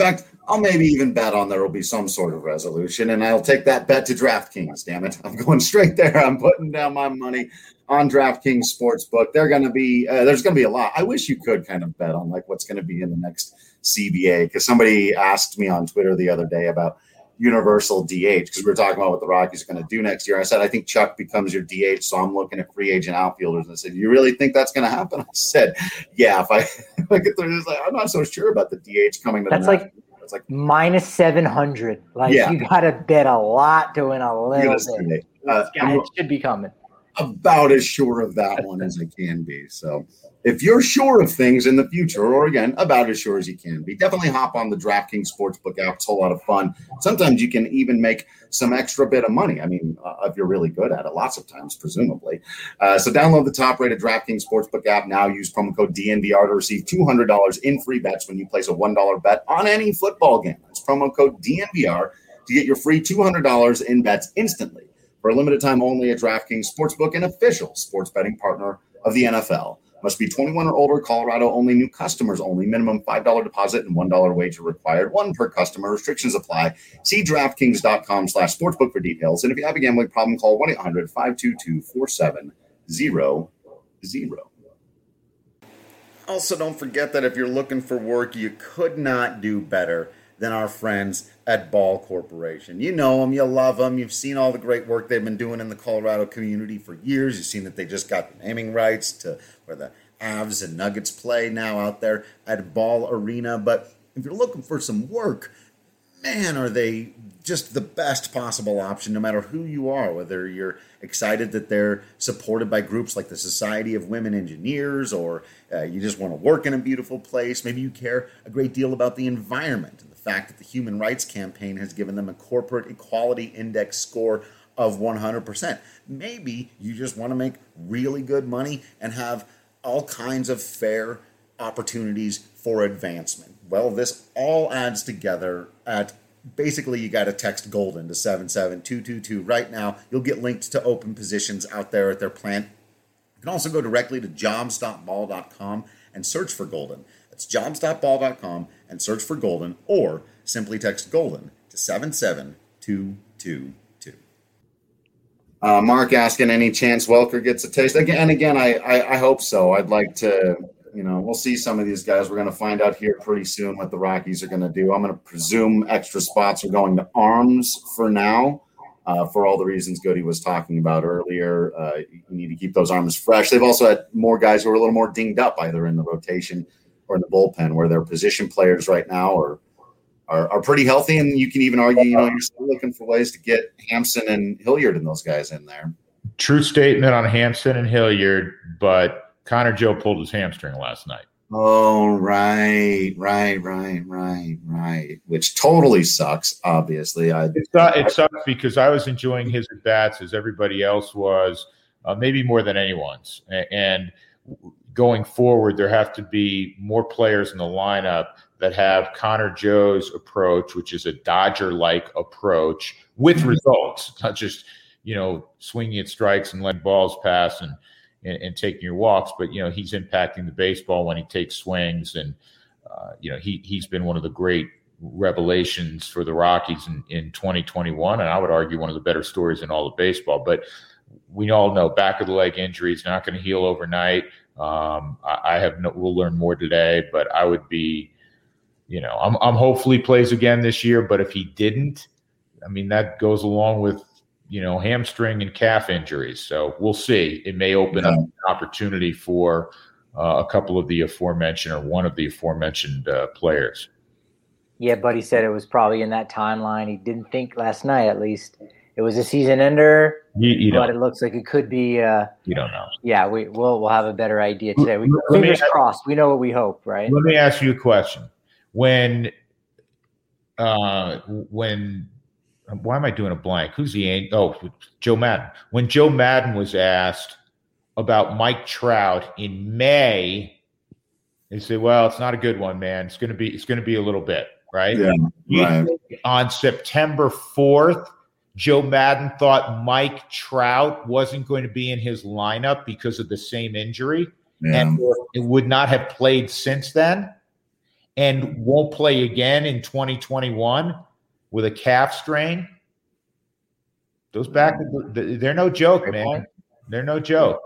I'll maybe even bet on there will be some sort of resolution, and I'll take that bet to DraftKings. Damn it, I'm going straight there. I'm putting down my money on DraftKings Sportsbook. They're going to be uh, there's going to be a lot. I wish you could kind of bet on like what's going to be in the next C B A, because somebody asked me on Twitter the other day about universal D H, because we were talking about what the Rockies are going to do next year. I said, I think Chuck becomes your D H, so I'm looking at free agent outfielders. And I said, you really think that's going to happen? I said, yeah, if I, if I get there, like, I'm not so sure about the D H coming to that's the like It's like minus seven hundred. Like yeah. you got to bet a lot to win a little bit. Uh, guy, it should be coming. About as sure of that one as I can be. So if you're sure of things in the future, or again, about as sure as you can be, definitely hop on the DraftKings Sportsbook app. It's a whole lot of fun. Sometimes you can even make some extra bit of money. I mean, uh, if you're really good at it, lots of times, presumably. Uh, so download the top-rated DraftKings Sportsbook app now. Use promo code D N V R to receive two hundred dollars in free bets when you place a one dollar bet on any football game. That's promo code D N V R to get your free two hundred dollars in bets instantly. For a limited time only at DraftKings Sportsbook, an official sports betting partner of the N F L. Must be twenty-one or older, Colorado only, new customers only, minimum five dollars deposit and one dollar wager required, one per customer. Restrictions apply. See DraftKings.com slash sportsbook for details. And if you have a gambling problem, call one eight hundred five two two four seven zero zero. Also, don't forget that if you're looking for work, you could not do better than our friends at Ball Corporation. You know them, you love them, you've seen all the great work they've been doing in the Colorado community for years. You've seen that they just got the naming rights to where the Avs and Nuggets play now out there at Ball Arena. But if you're looking for some work, man, are they just the best possible option, no matter who you are, whether you're excited that they're supported by groups like the Society of Women Engineers, or uh, you just want to work in a beautiful place. Maybe you care a great deal about the environment and the fact that the Human Rights Campaign has given them a corporate equality index score of one hundred percent. Maybe you just want to make really good money and have all kinds of fair opportunities for advancement. Well, this all adds together at basically, you got to text Golden to seven seven two two two right now. You'll get linked to open positions out there at their plant. You can also go directly to jobs dot ball dot com and search for Golden. That's jobs dot ball dot com and search for Golden, or simply text Golden to seven seven two two two. Uh, Mark asking, any chance Welker gets a taste? Again, and again, I, I, I hope so. I'd like to... You know, we'll see some of these guys. We're going to find out here pretty soon what the Rockies are going to do. I'm going to presume extra spots are going to arms for now, uh, for all the reasons Goody was talking about earlier. Uh, you need to keep those arms fresh. They've also had more guys who are a little more dinged up, either in the rotation or in the bullpen, where their position players right now are are, are pretty healthy. And you can even argue, you know, you're still looking for ways to get Hampson and Hilliard and those guys in there. True statement on Hampson and Hilliard, but Connor Joe pulled his hamstring last night. Oh, right, right, right, right, right. Which totally sucks, obviously. I, it, it sucks because I was enjoying his at-bats as everybody else was, uh, maybe more than anyone's. And going forward, there have to be more players in the lineup that have Connor Joe's approach, which is a Dodger-like approach with mm-hmm. results, not just, you know, swinging at strikes and letting balls pass and And, and taking your walks, but you know he's impacting the baseball when he takes swings, and uh, you know he he's been one of the great revelations for the Rockies in, in twenty twenty-one, and I would argue one of the better stories in all of baseball. But we all know back of the leg injury is not going to heal overnight. Um, I, I have no. We'll learn more today, but I would be, you know, I'm I'm hopefully plays again this year. But if he didn't, I mean that goes along with, you know, hamstring and calf injuries. So we'll see. It may open yeah. up an opportunity for uh, a couple of the aforementioned or one of the aforementioned uh, players. Yeah, Buddy said it was probably in that timeline. He didn't think last night, at least, it was a season ender. You, you but it looks like it could be. Uh, you don't know. Yeah, we, we'll we'll have a better idea today. We, fingers me, crossed. We know what we hope, right? Let me ask you a question. When, uh, when. Why am I doing a blank? Who's the – oh, Joe Madden. When Joe Madden was asked about Mike Trout in May, he said, well, it's not a good one, man. It's going to be it's going to be a little bit, right? Yeah, right. On September fourth, Joe Madden thought Mike Trout wasn't going to be in his lineup because of the same injury, yeah. and it would not have played since then. and won't play again in twenty twenty-one with a calf strain. Those back, they're no joke, man. They're no joke.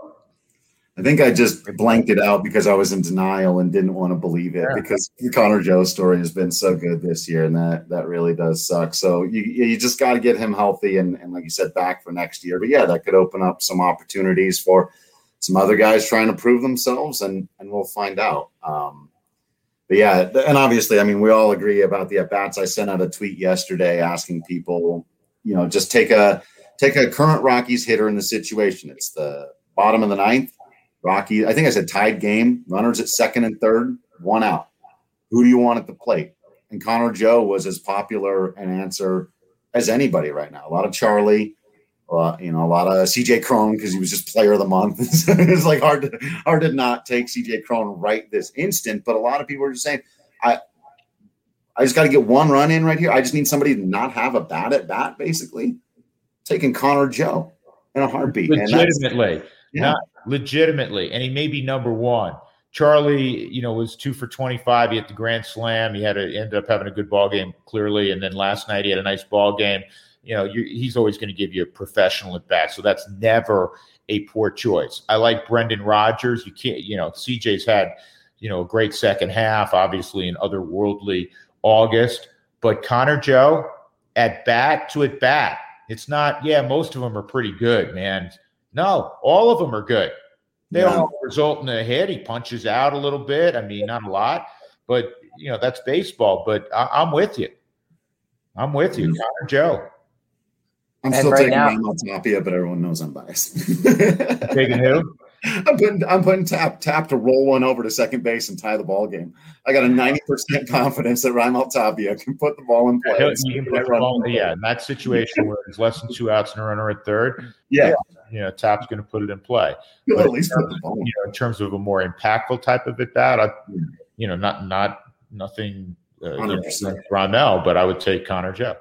I think I just blanked it out because I was in denial and didn't want to believe it, yeah. because the Connor Joe story has been so good this year, and that that really does suck. So you you just got to get him healthy and, and, like you said, back for next year. But, yeah, that could open up some opportunities for some other guys trying to prove themselves, and, and we'll find out. Um, but, yeah, and obviously, I mean, we all agree about the at-bats. I sent out a tweet yesterday asking people, you know, just take a – Take a current Rockies hitter in the situation. It's the bottom of the ninth. Rocky, I think I said tied game. Runners at second and third, one out. Who do you want at the plate? And Connor Joe was as popular an answer as anybody right now. A lot of Charlie, uh, you know, a lot of C J Cron because he was just player of the month. It's like hard to hard to not take C J Cron right this instant. But a lot of people are just saying, I, I just got to get one run in right here. I just need somebody to not have a bat at bat, basically. Taking Connor Joe in a heartbeat. Legitimately. And yeah. Not legitimately. And he may be number one. Charlie, you know, was two for twenty-five. He hit the grand slam. He had to end up having a good ball game, clearly. And then last night he had a nice ball game. You know, you're, he's always going to give you a professional at bat. So that's never a poor choice. I like Brendan Rodgers. You can't, you know, C J's had, you know, a great second half, obviously an otherworldly August. But Connor Joe, at bat to at bat. It's not, yeah, most of them are pretty good, man. No, all of them are good. They yeah. don't result in a hit. He punches out a little bit. I mean, not a lot, but, you know, that's baseball. But I, I'm with you. I'm with you, mm-hmm. Connor Joe. I'm and still right taking Raimel Tapia, but everyone knows I'm biased. Taking who? I'm putting I'm putting tap tap to roll one over to second base and tie the ball game. I got a ninety percent confidence that Raimel Tapia can put the ball in play. Yeah, you can put the ball, yeah, in that situation where there's less than two outs and a runner at third, yeah, you know, Tap's going to put it in play. But at least put the ball. You know, in terms of a more impactful type of at bat, I, you know, not not nothing uh, you know, like Raimel, but I would take Connor Joe.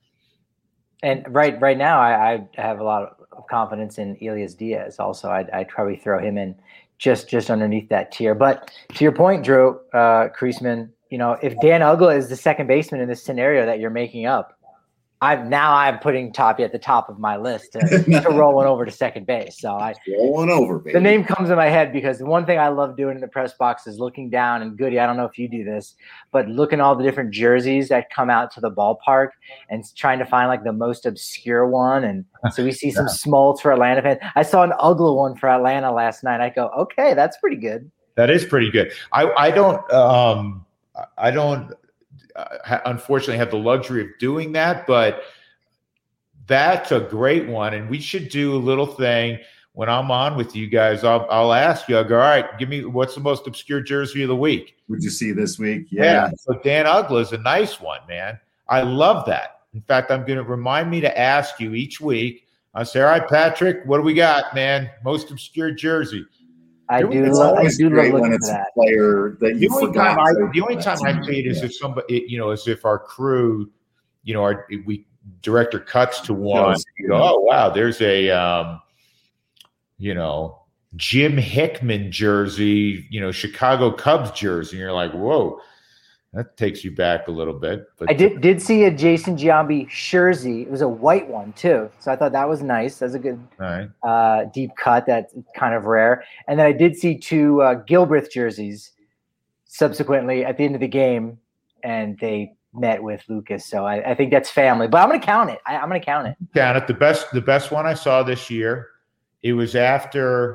And right right now, I, I have a lot of confidence in Elias Diaz. Also, I'd, I'd probably throw him in just just underneath that tier. But to your point, Drew uh, Kriesman, you know, if Dan Uggla is the second baseman in this scenario that you're making up, I'm now I'm putting Tapia at the top of my list to, to roll one over to second base. So I roll one over, baby. The name comes in my head because the one thing I love doing in the press box is looking down and Goody, I don't know if you do this, but looking at all the different jerseys that come out to the ballpark and trying to find like the most obscure one. And so we see some yeah. Smoltz for Atlanta fans. I saw an Uggla one for Atlanta last night. I go, okay, that's pretty good. That is pretty good. I I don't um I don't. Uh, unfortunately have the luxury of doing that, but that's a great one. And we should do a little thing when I'm on with you guys. I'll, I'll ask you, I'll go, all right, give me what's the most obscure jersey of the week. Would you see this week? Yeah. yeah so Dan Uggla is a nice one, man. I love that. In fact, I'm going to remind me to ask you each week. I say, all right, Patrick, what do we got, man? Most obscure jersey. I do, love, I do love looking at that. Player that you the only forgot. Time I, the only time I see it is if somebody, you know, as if our crew, you know, our we director cuts to one. You go, oh wow, there's a, um, you know, Jim Hickman jersey, you know, Chicago Cubs jersey. And you're like, whoa, that takes you back a little bit. But I did did see a Jason Giambi jersey. It was a white one too, so I thought that was nice. That's a good right. uh, deep cut. That's kind of rare. And then I did see two uh, Gilbreth jerseys subsequently at the end of the game, and they met with Lucas. So I, I think that's family. But I'm going to count it. I, I'm going to count it. Count it. The best the best one I saw this year. It was after.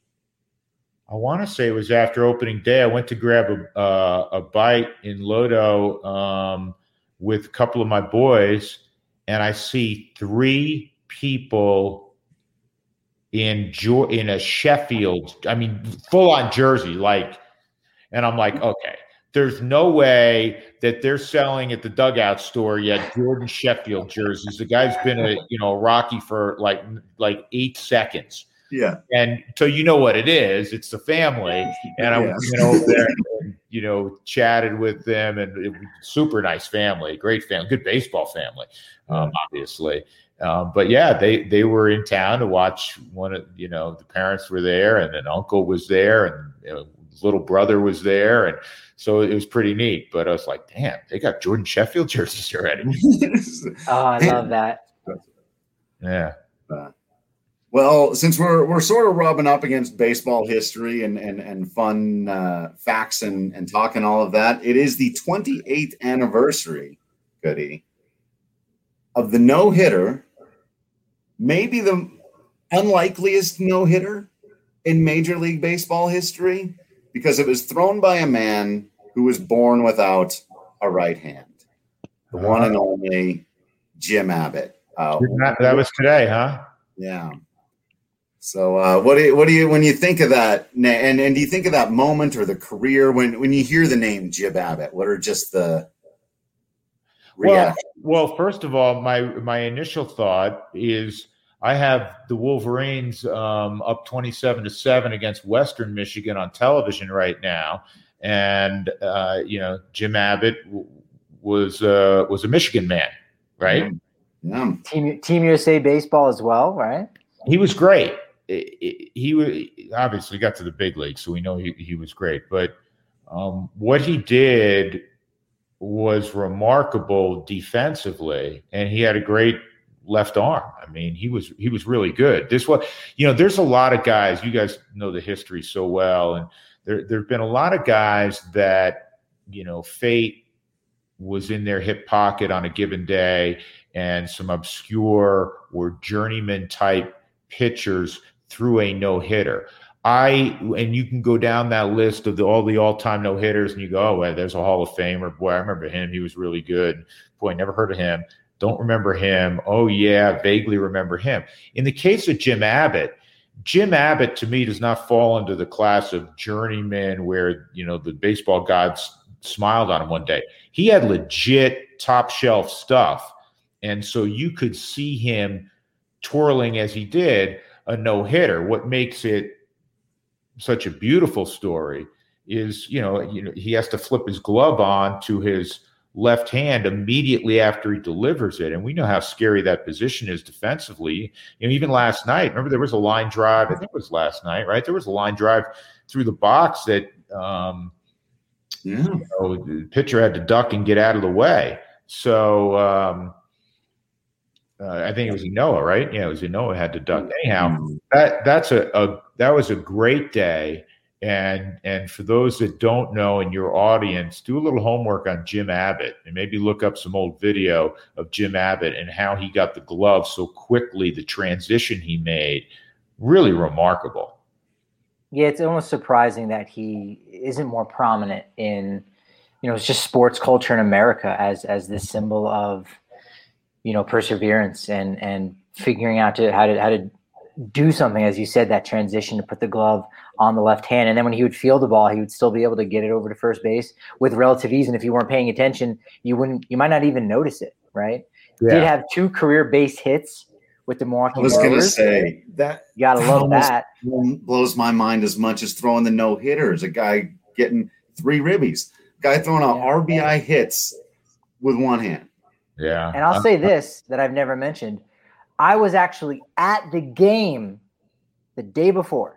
I want to say it was after opening day. I went to grab a uh, a bite in Lodo um, with a couple of my boys, and I see three people in in a Sheffield. I mean, full on jersey, like, and I'm like, okay, there's no way that they're selling at the dugout store yet Jordan Sheffield jerseys. The guy's been a you know Rocky for like like eight seconds. Yeah. And so you know what it is. It's the family. And I yeah. went over there and, you know, chatted with them, and it was super nice family, great family, good baseball family, um, obviously. Um, but yeah, they, they were in town to watch one of, you know, the parents were there and an uncle was there, and you know, his little brother was there, and so it was pretty neat. But I was like, damn, they got Jordan Sheffield jerseys already. Oh, I love that. Yeah. Uh, well, since we're we're sort of rubbing up against baseball history and and and fun uh, facts and and talking all of that, it is the twenty-eighth anniversary, Goody, of the no hitter, maybe the unlikeliest no hitter in Major League Baseball history, because it was thrown by a man who was born without a right hand, the uh, one and only Jim Abbott. Uh, that, that was today, huh? Yeah. So, uh, what do you, what do you when you think of that, and and do you think of that moment or the career when when you hear the name Jim Abbott? What are just the reactions? Well, well, first of all, my my initial thought is I have the Wolverines um, up twenty-seven to seven against Western Michigan on television right now, and uh, you know Jim Abbott w- was uh, was a Michigan man, right? Mm-hmm. Yeah. Team Team U S A baseball as well, right? He was great. He, he obviously got to the big league, so we know he, he was great. But um, what he did was remarkable defensively, and he had a great left arm. I mean, he was he was really good. This was, you know, there's a lot of guys. You guys know the history so well, and there there've been a lot of guys that, you know, fate was in their hip pocket on a given day, and some obscure or journeyman type pitchers threw a no hitter. I and you can go down that list of the, all the all time no hitters, and you go, oh, well, there's a Hall of Famer. Boy, I remember him. He was really good. Boy, never heard of him. Don't remember him. Oh yeah, vaguely remember him. In the case of Jim Abbott, Jim Abbott to me does not fall into the class of journeyman where, you know, the baseball gods smiled on him one day. He had legit top shelf stuff. And so you could see him twirling as he did a no-hitter. What makes it such a beautiful story is, you know, you know, he has to flip his glove on to his left hand immediately after he delivers it. And we know how scary that position is defensively. You know, even last night, remember there was a line drive, I think it was last night, right? There was a line drive through the box that um, yeah. you know, the pitcher had to duck and get out of the way. So um, uh, I think it was Inoa, right? Yeah, it was Inoa had to duck. Anyhow, that that's a, a that was a great day. And and for those that don't know in your audience, do a little homework on Jim Abbott and maybe look up some old video of Jim Abbott and how he got the glove so quickly, the transition he made. Really remarkable. Yeah, it's almost surprising that he isn't more prominent in, you know, it's just sports culture in America as as this symbol of, you know, perseverance and and figuring out to how to how to do something, as you said, that transition to put the glove on the left hand. And then when he would field the ball, he would still be able to get it over to first base with relative ease. And if you weren't paying attention, you wouldn't, you might not even notice it, right? Yeah. Did have two career base hits with the Milwaukee I was going to say that. You got to love that. Blows my mind as much as throwing the no hitters. A guy getting three ribbies, guy throwing out yeah. R B I hits with one hand. Yeah. And I'll uh, say this that I've never mentioned. I was actually at the game the day before.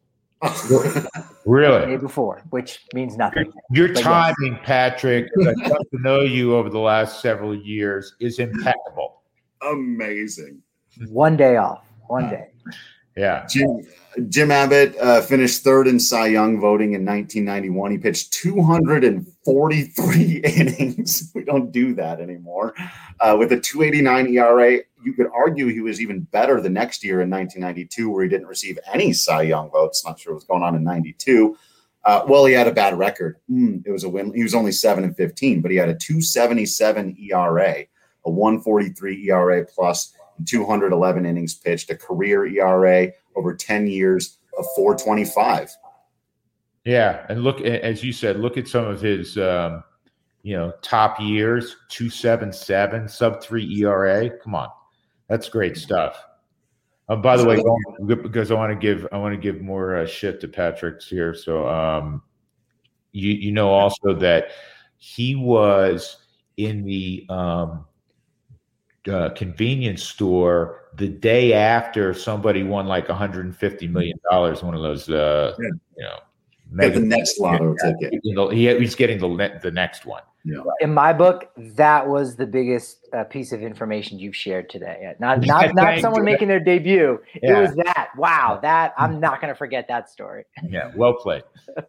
Really? The day before, which means nothing. Your, your timing, yes. Patrick, as I've got to know you over the last several years, is impeccable. Amazing. One day off. One day. Yeah. Jim, Jim Abbott uh, finished third in Cy Young voting in nineteen ninety-one. He pitched two hundred forty-three innings. We don't do that anymore. Uh, with a two eighty-nine E R A. You could argue he was even better the next year in nineteen ninety-two, where he didn't receive any Cy Young votes. Not sure what's going on in ninety-two. Uh, well, he had a bad record. Mm, it was a win. He was only seven and fifteen, but he had a two seventy-seven E R A, a one forty-three E R A plus, and two hundred eleven innings pitched, a career E R A over ten years of four twenty-five. Yeah, and look, as you said, look at some of his, um, you know, top years: two seventy-seven, sub three E R A. Come on. That's great stuff. Uh, by the way, because I want to give I want to give more uh, shit to Patrick's here. So, um, you you know also that he was in the um, uh, convenience store the day after somebody won like one hundred fifty million dollars. One of those, uh, yeah. you know, Get the next lotto yeah, ticket. You know, he, he's getting the the next one. Yeah. In my book, that was the biggest uh, piece of information you've shared today. Not not not someone making their debut. Yeah. It was that. Wow, that I'm not going to forget that story. Yeah, well played.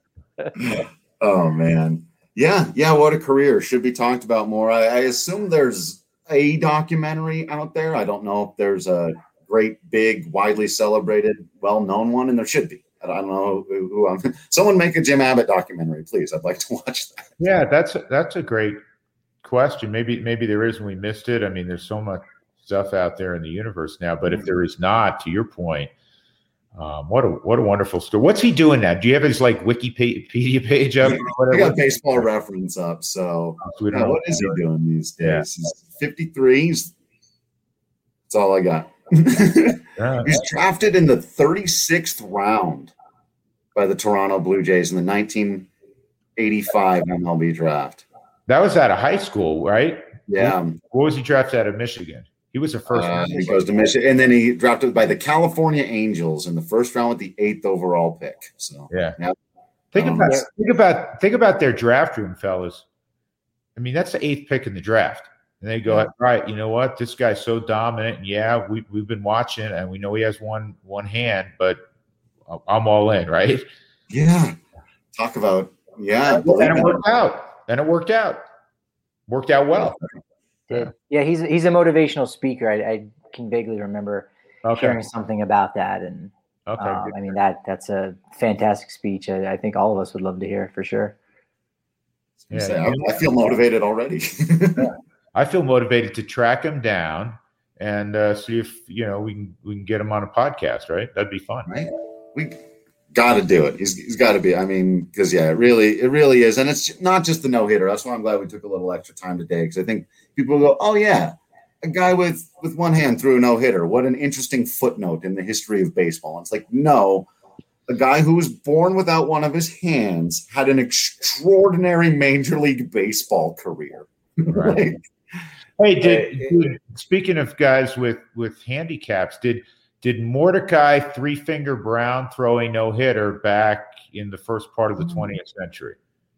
Oh man, yeah, yeah. What a career! Should be talked about more. I, I assume there's a documentary out there. I don't know if there's a great, big, widely celebrated, well-known one, and there should be. I don't know who, who I'm. Someone make a Jim Abbott documentary, please. I'd like to watch that. Yeah, that's a, that's a great question. Maybe maybe there is, and we missed it. I mean, there's so much stuff out there in the universe now. But if there is not, to your point, um, what a what a wonderful story. What's he doing now? Do you have his like Wikipedia page up? I got Baseball Reference up. So, so yeah, what is he doing these days? Yeah. He's fifty-three. He's, that's all I got. Yeah. He's drafted in the thirty-sixth round by the Toronto Blue Jays in the nineteen eighty-five M L B draft. That was out of high school, right? Yeah. What was he drafted out of Michigan? He was the first. Uh, he goes to Michigan, and then he drafted by the California Angels in the first round with the eighth overall pick. So yeah. yeah. Think um, about think about think about their draft room, fellas. I mean, that's the eighth pick in the draft. And they go, all right, you know what? This guy's so dominant. And yeah, we, we've been watching, and we know he has one one hand, but I'm all in, right? Yeah. Talk about, yeah. And it worked out. And it worked out. Worked out well. Yeah, yeah he's he's a motivational speaker. I, I can vaguely remember okay. hearing something about that. And okay, um, I mean, that that's a fantastic speech. I, I think all of us would love to hear for sure. Yeah, I, I feel motivated already. Yeah. I feel motivated to track him down and uh, see if you know we can we can get him on a podcast. Right, that'd be fun. Right, we got to do it. He's he's got to be. I mean, because yeah, it really it really is, and it's not just the no hitter. That's why I'm glad we took a little extra time today because I think people will go, oh yeah, a guy with with one hand threw a no hitter. What an interesting footnote in the history of baseball. And it's like no. A guy who was born without one of his hands had an extraordinary Major League Baseball career. Right. Like, hey, did, did speaking of guys with, with handicaps, did did Mordecai Three Finger Brown throw a no hitter back in the first part of the twentieth century?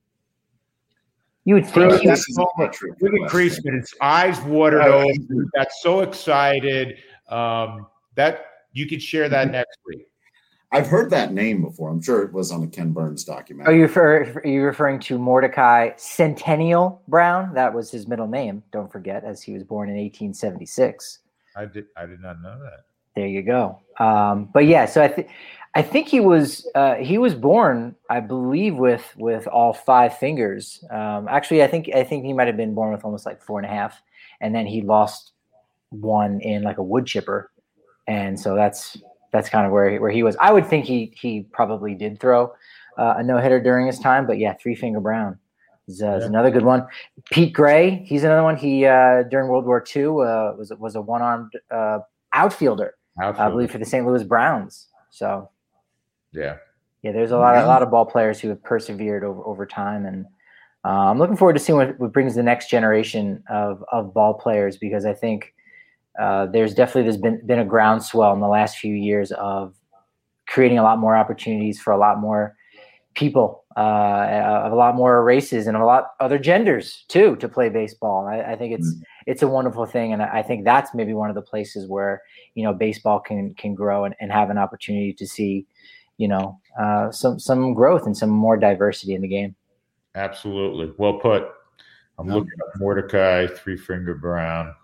You would think he was look at Creasman, his eyes watered over. He got so excited. Um, that you could share that next week. I've heard that name before. I'm sure it was on the Ken Burns documentary. Are you, refer, are you referring to Mordecai Centennial Brown? That was his middle name, don't forget, as he was born in eighteen seventy-six. I did I did not know that. There you go. Um, but yeah, so I think I think he was uh, he was born, I believe, with with all five fingers. Um, actually, I think I think he might have been born with almost like four and a half, and then he lost one in like a wood chipper, and so that's. That's kind of where he, where he was. I would think he he probably did throw uh, a no hitter during his time, but yeah, Three Finger Brown is, uh, yeah. is another good one. Pete Gray, he's another one. He uh, during World War Two uh, was was a one armed uh, outfielder, outfielder, I believe, for the Saint Louis Browns. So yeah, yeah, there's a lot yeah. a lot of ball players who have persevered over over time, and uh, I'm looking forward to seeing what, what brings the next generation of of ball players because I think. Uh, there's definitely there's been been a groundswell in the last few years of creating a lot more opportunities for a lot more people, uh, of a lot more races and a lot other genders too to play baseball. I, I think it's mm. it's a wonderful thing, and I think that's maybe one of the places where you know baseball can can grow and, and have an opportunity to see, you know, uh, some some growth and some more diversity in the game. Absolutely, well put. I'm looking at Mordecai Three Finger Brown.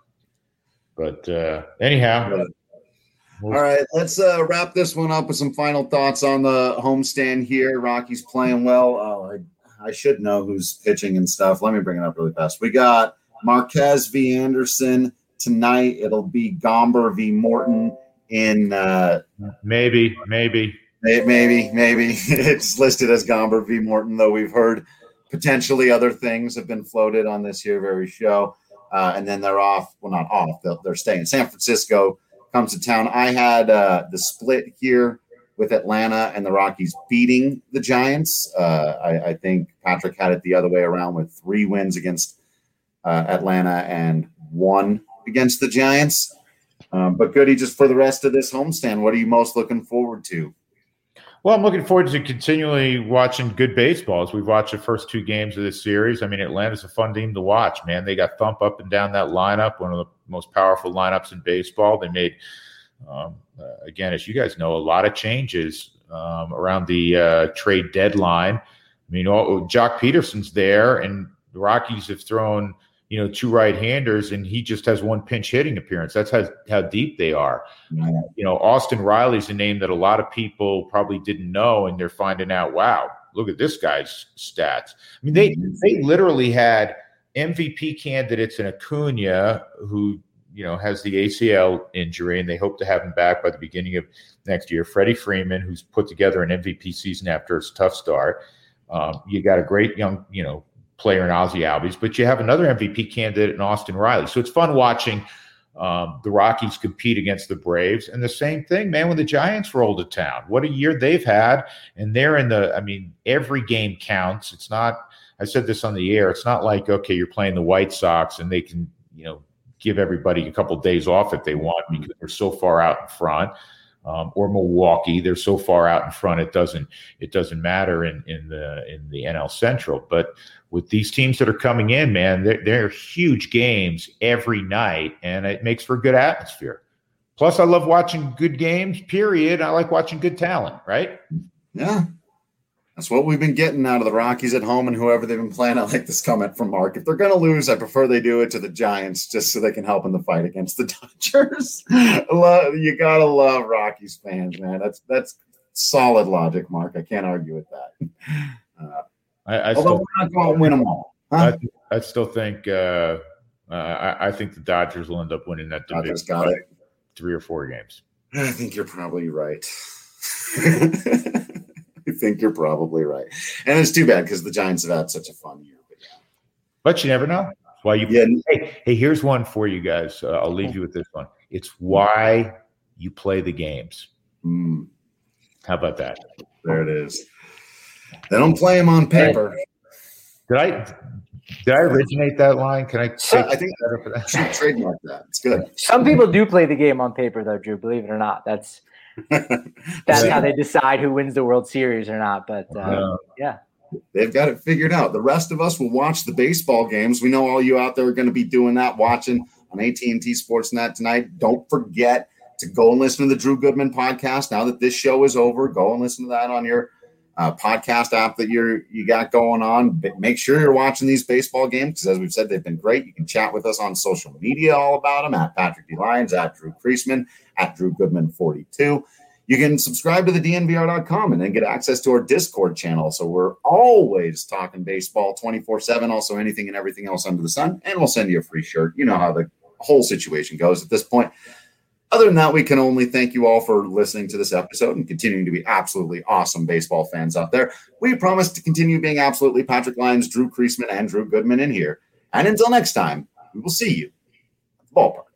But uh, anyhow. All right, let's uh, wrap this one up with some final thoughts on the homestand here. Rocky's playing well. Oh, I, I should know who's pitching and stuff. Let me bring it up really fast. We got Marquez v. Anderson tonight. It'll be Gomber v. Morton in uh, maybe, maybe. Maybe, maybe. It's listed as Gomber v. Morton, though we've heard potentially other things have been floated on this here very show. Uh, and then they're off. Well, not off. They're, they're staying. San Francisco comes to town. I had uh, the split here with Atlanta and the Rockies beating the Giants. Uh, I, I think Patrick had it the other way around with three wins against uh, Atlanta and one against the Giants. Um, but Goody, just for the rest of this homestand, what are you most looking forward to? Well, I'm looking forward to continually watching good baseball as we've watched the first two games of this series. I mean, Atlanta's a fun team to watch, man. They got thump up and down that lineup, one of the most powerful lineups in baseball. They made, um, uh, again, as you guys know, a lot of changes um, around the uh, trade deadline. I mean, all, Jock Peterson's there, and the Rockies have thrown, you know, two right-handers, and he just has one pinch hitting appearance. That's how, how deep they are. Mm-hmm. Uh, you know, Austin Riley's a name that a lot of people probably didn't know, and they're finding out, wow, look at this guy's stats. I mean, they they literally had M V P candidates in Acuna, who, you know, has the A C L injury, and they hope to have him back by the beginning of next year. Freddie Freeman, who's put together an M V P season after his tough start. Um, you got a great young, you know, player in Ozzie Albies, but you have another M V P candidate in Austin Riley. So it's fun watching um, the Rockies compete against the Braves. And the same thing, man, when the Giants roll to town. What a year they've had. And they're in the, I mean, every game counts. It's not, I said this on the air, it's not like, okay, you're playing the White Sox and they can, you know, give everybody a couple of days off if they want because they're so far out in front. Um, or Milwaukee, they're so far out in front it doesn't it doesn't matter in in the in the N L Central. But with these teams that are coming in, man, they're, they're huge games every night, and it makes for a good atmosphere. Plus, I love watching good games. Period. I like watching good talent. Right? Yeah, that's what we've been getting out of the Rockies at home and whoever they've been playing. I like this comment from Mark. If they're going to lose, I prefer they do it to the Giants just so they can help in the fight against the Dodgers. love, you got to love Rockies fans, man. That's that's solid logic, Mark. I can't argue with that. Uh, I, I although still, we're not going to win them all. Huh? I, I still think uh, uh, I, I think the Dodgers will end up winning that division. Dodgers got it. Three or four games. I think you're probably right. I think you're probably right. And it's too bad because the Giants have had such a fun year. But, yeah. but you never know. Why you yeah. hey, hey, here's one for you guys. Uh, I'll leave you with this one. It's why you play the games. Mm. How about that? There it is. They don't play them on paper. Did I did I originate that line? Can I take I think I should trademark that. It's good. Some people do play the game on paper, though, Drew. Believe it or not, that's that's yeah. how they decide who wins the World Series or not. But uh, uh, yeah, they've got it figured out. The rest of us will watch the baseball games. We know all you out there are going to be doing that, watching on A T and T Sportsnet tonight. Don't forget to go and listen to the Drew Goodman podcast. Now that this show is over, go and listen to that on your uh, podcast app that you're you got going on. But make sure you're watching these baseball games because, as we've said, they've been great. You can chat with us on social media all about them at Patrick D. Lyons, at Drew Creasman, at Drew Goodman forty-two. You can subscribe to the D N V R dot com and then get access to our Discord channel. So we're always talking baseball twenty-four seven, also anything and everything else under the sun. And we'll send you a free shirt. You know how the whole situation goes at this point. Other than that, we can only thank you all for listening to this episode and continuing to be absolutely awesome baseball fans out there. We promise to continue being absolutely Patrick Lyons, Drew Creasman, and Drew Goodman in here. And until next time, we will see you at the ballpark.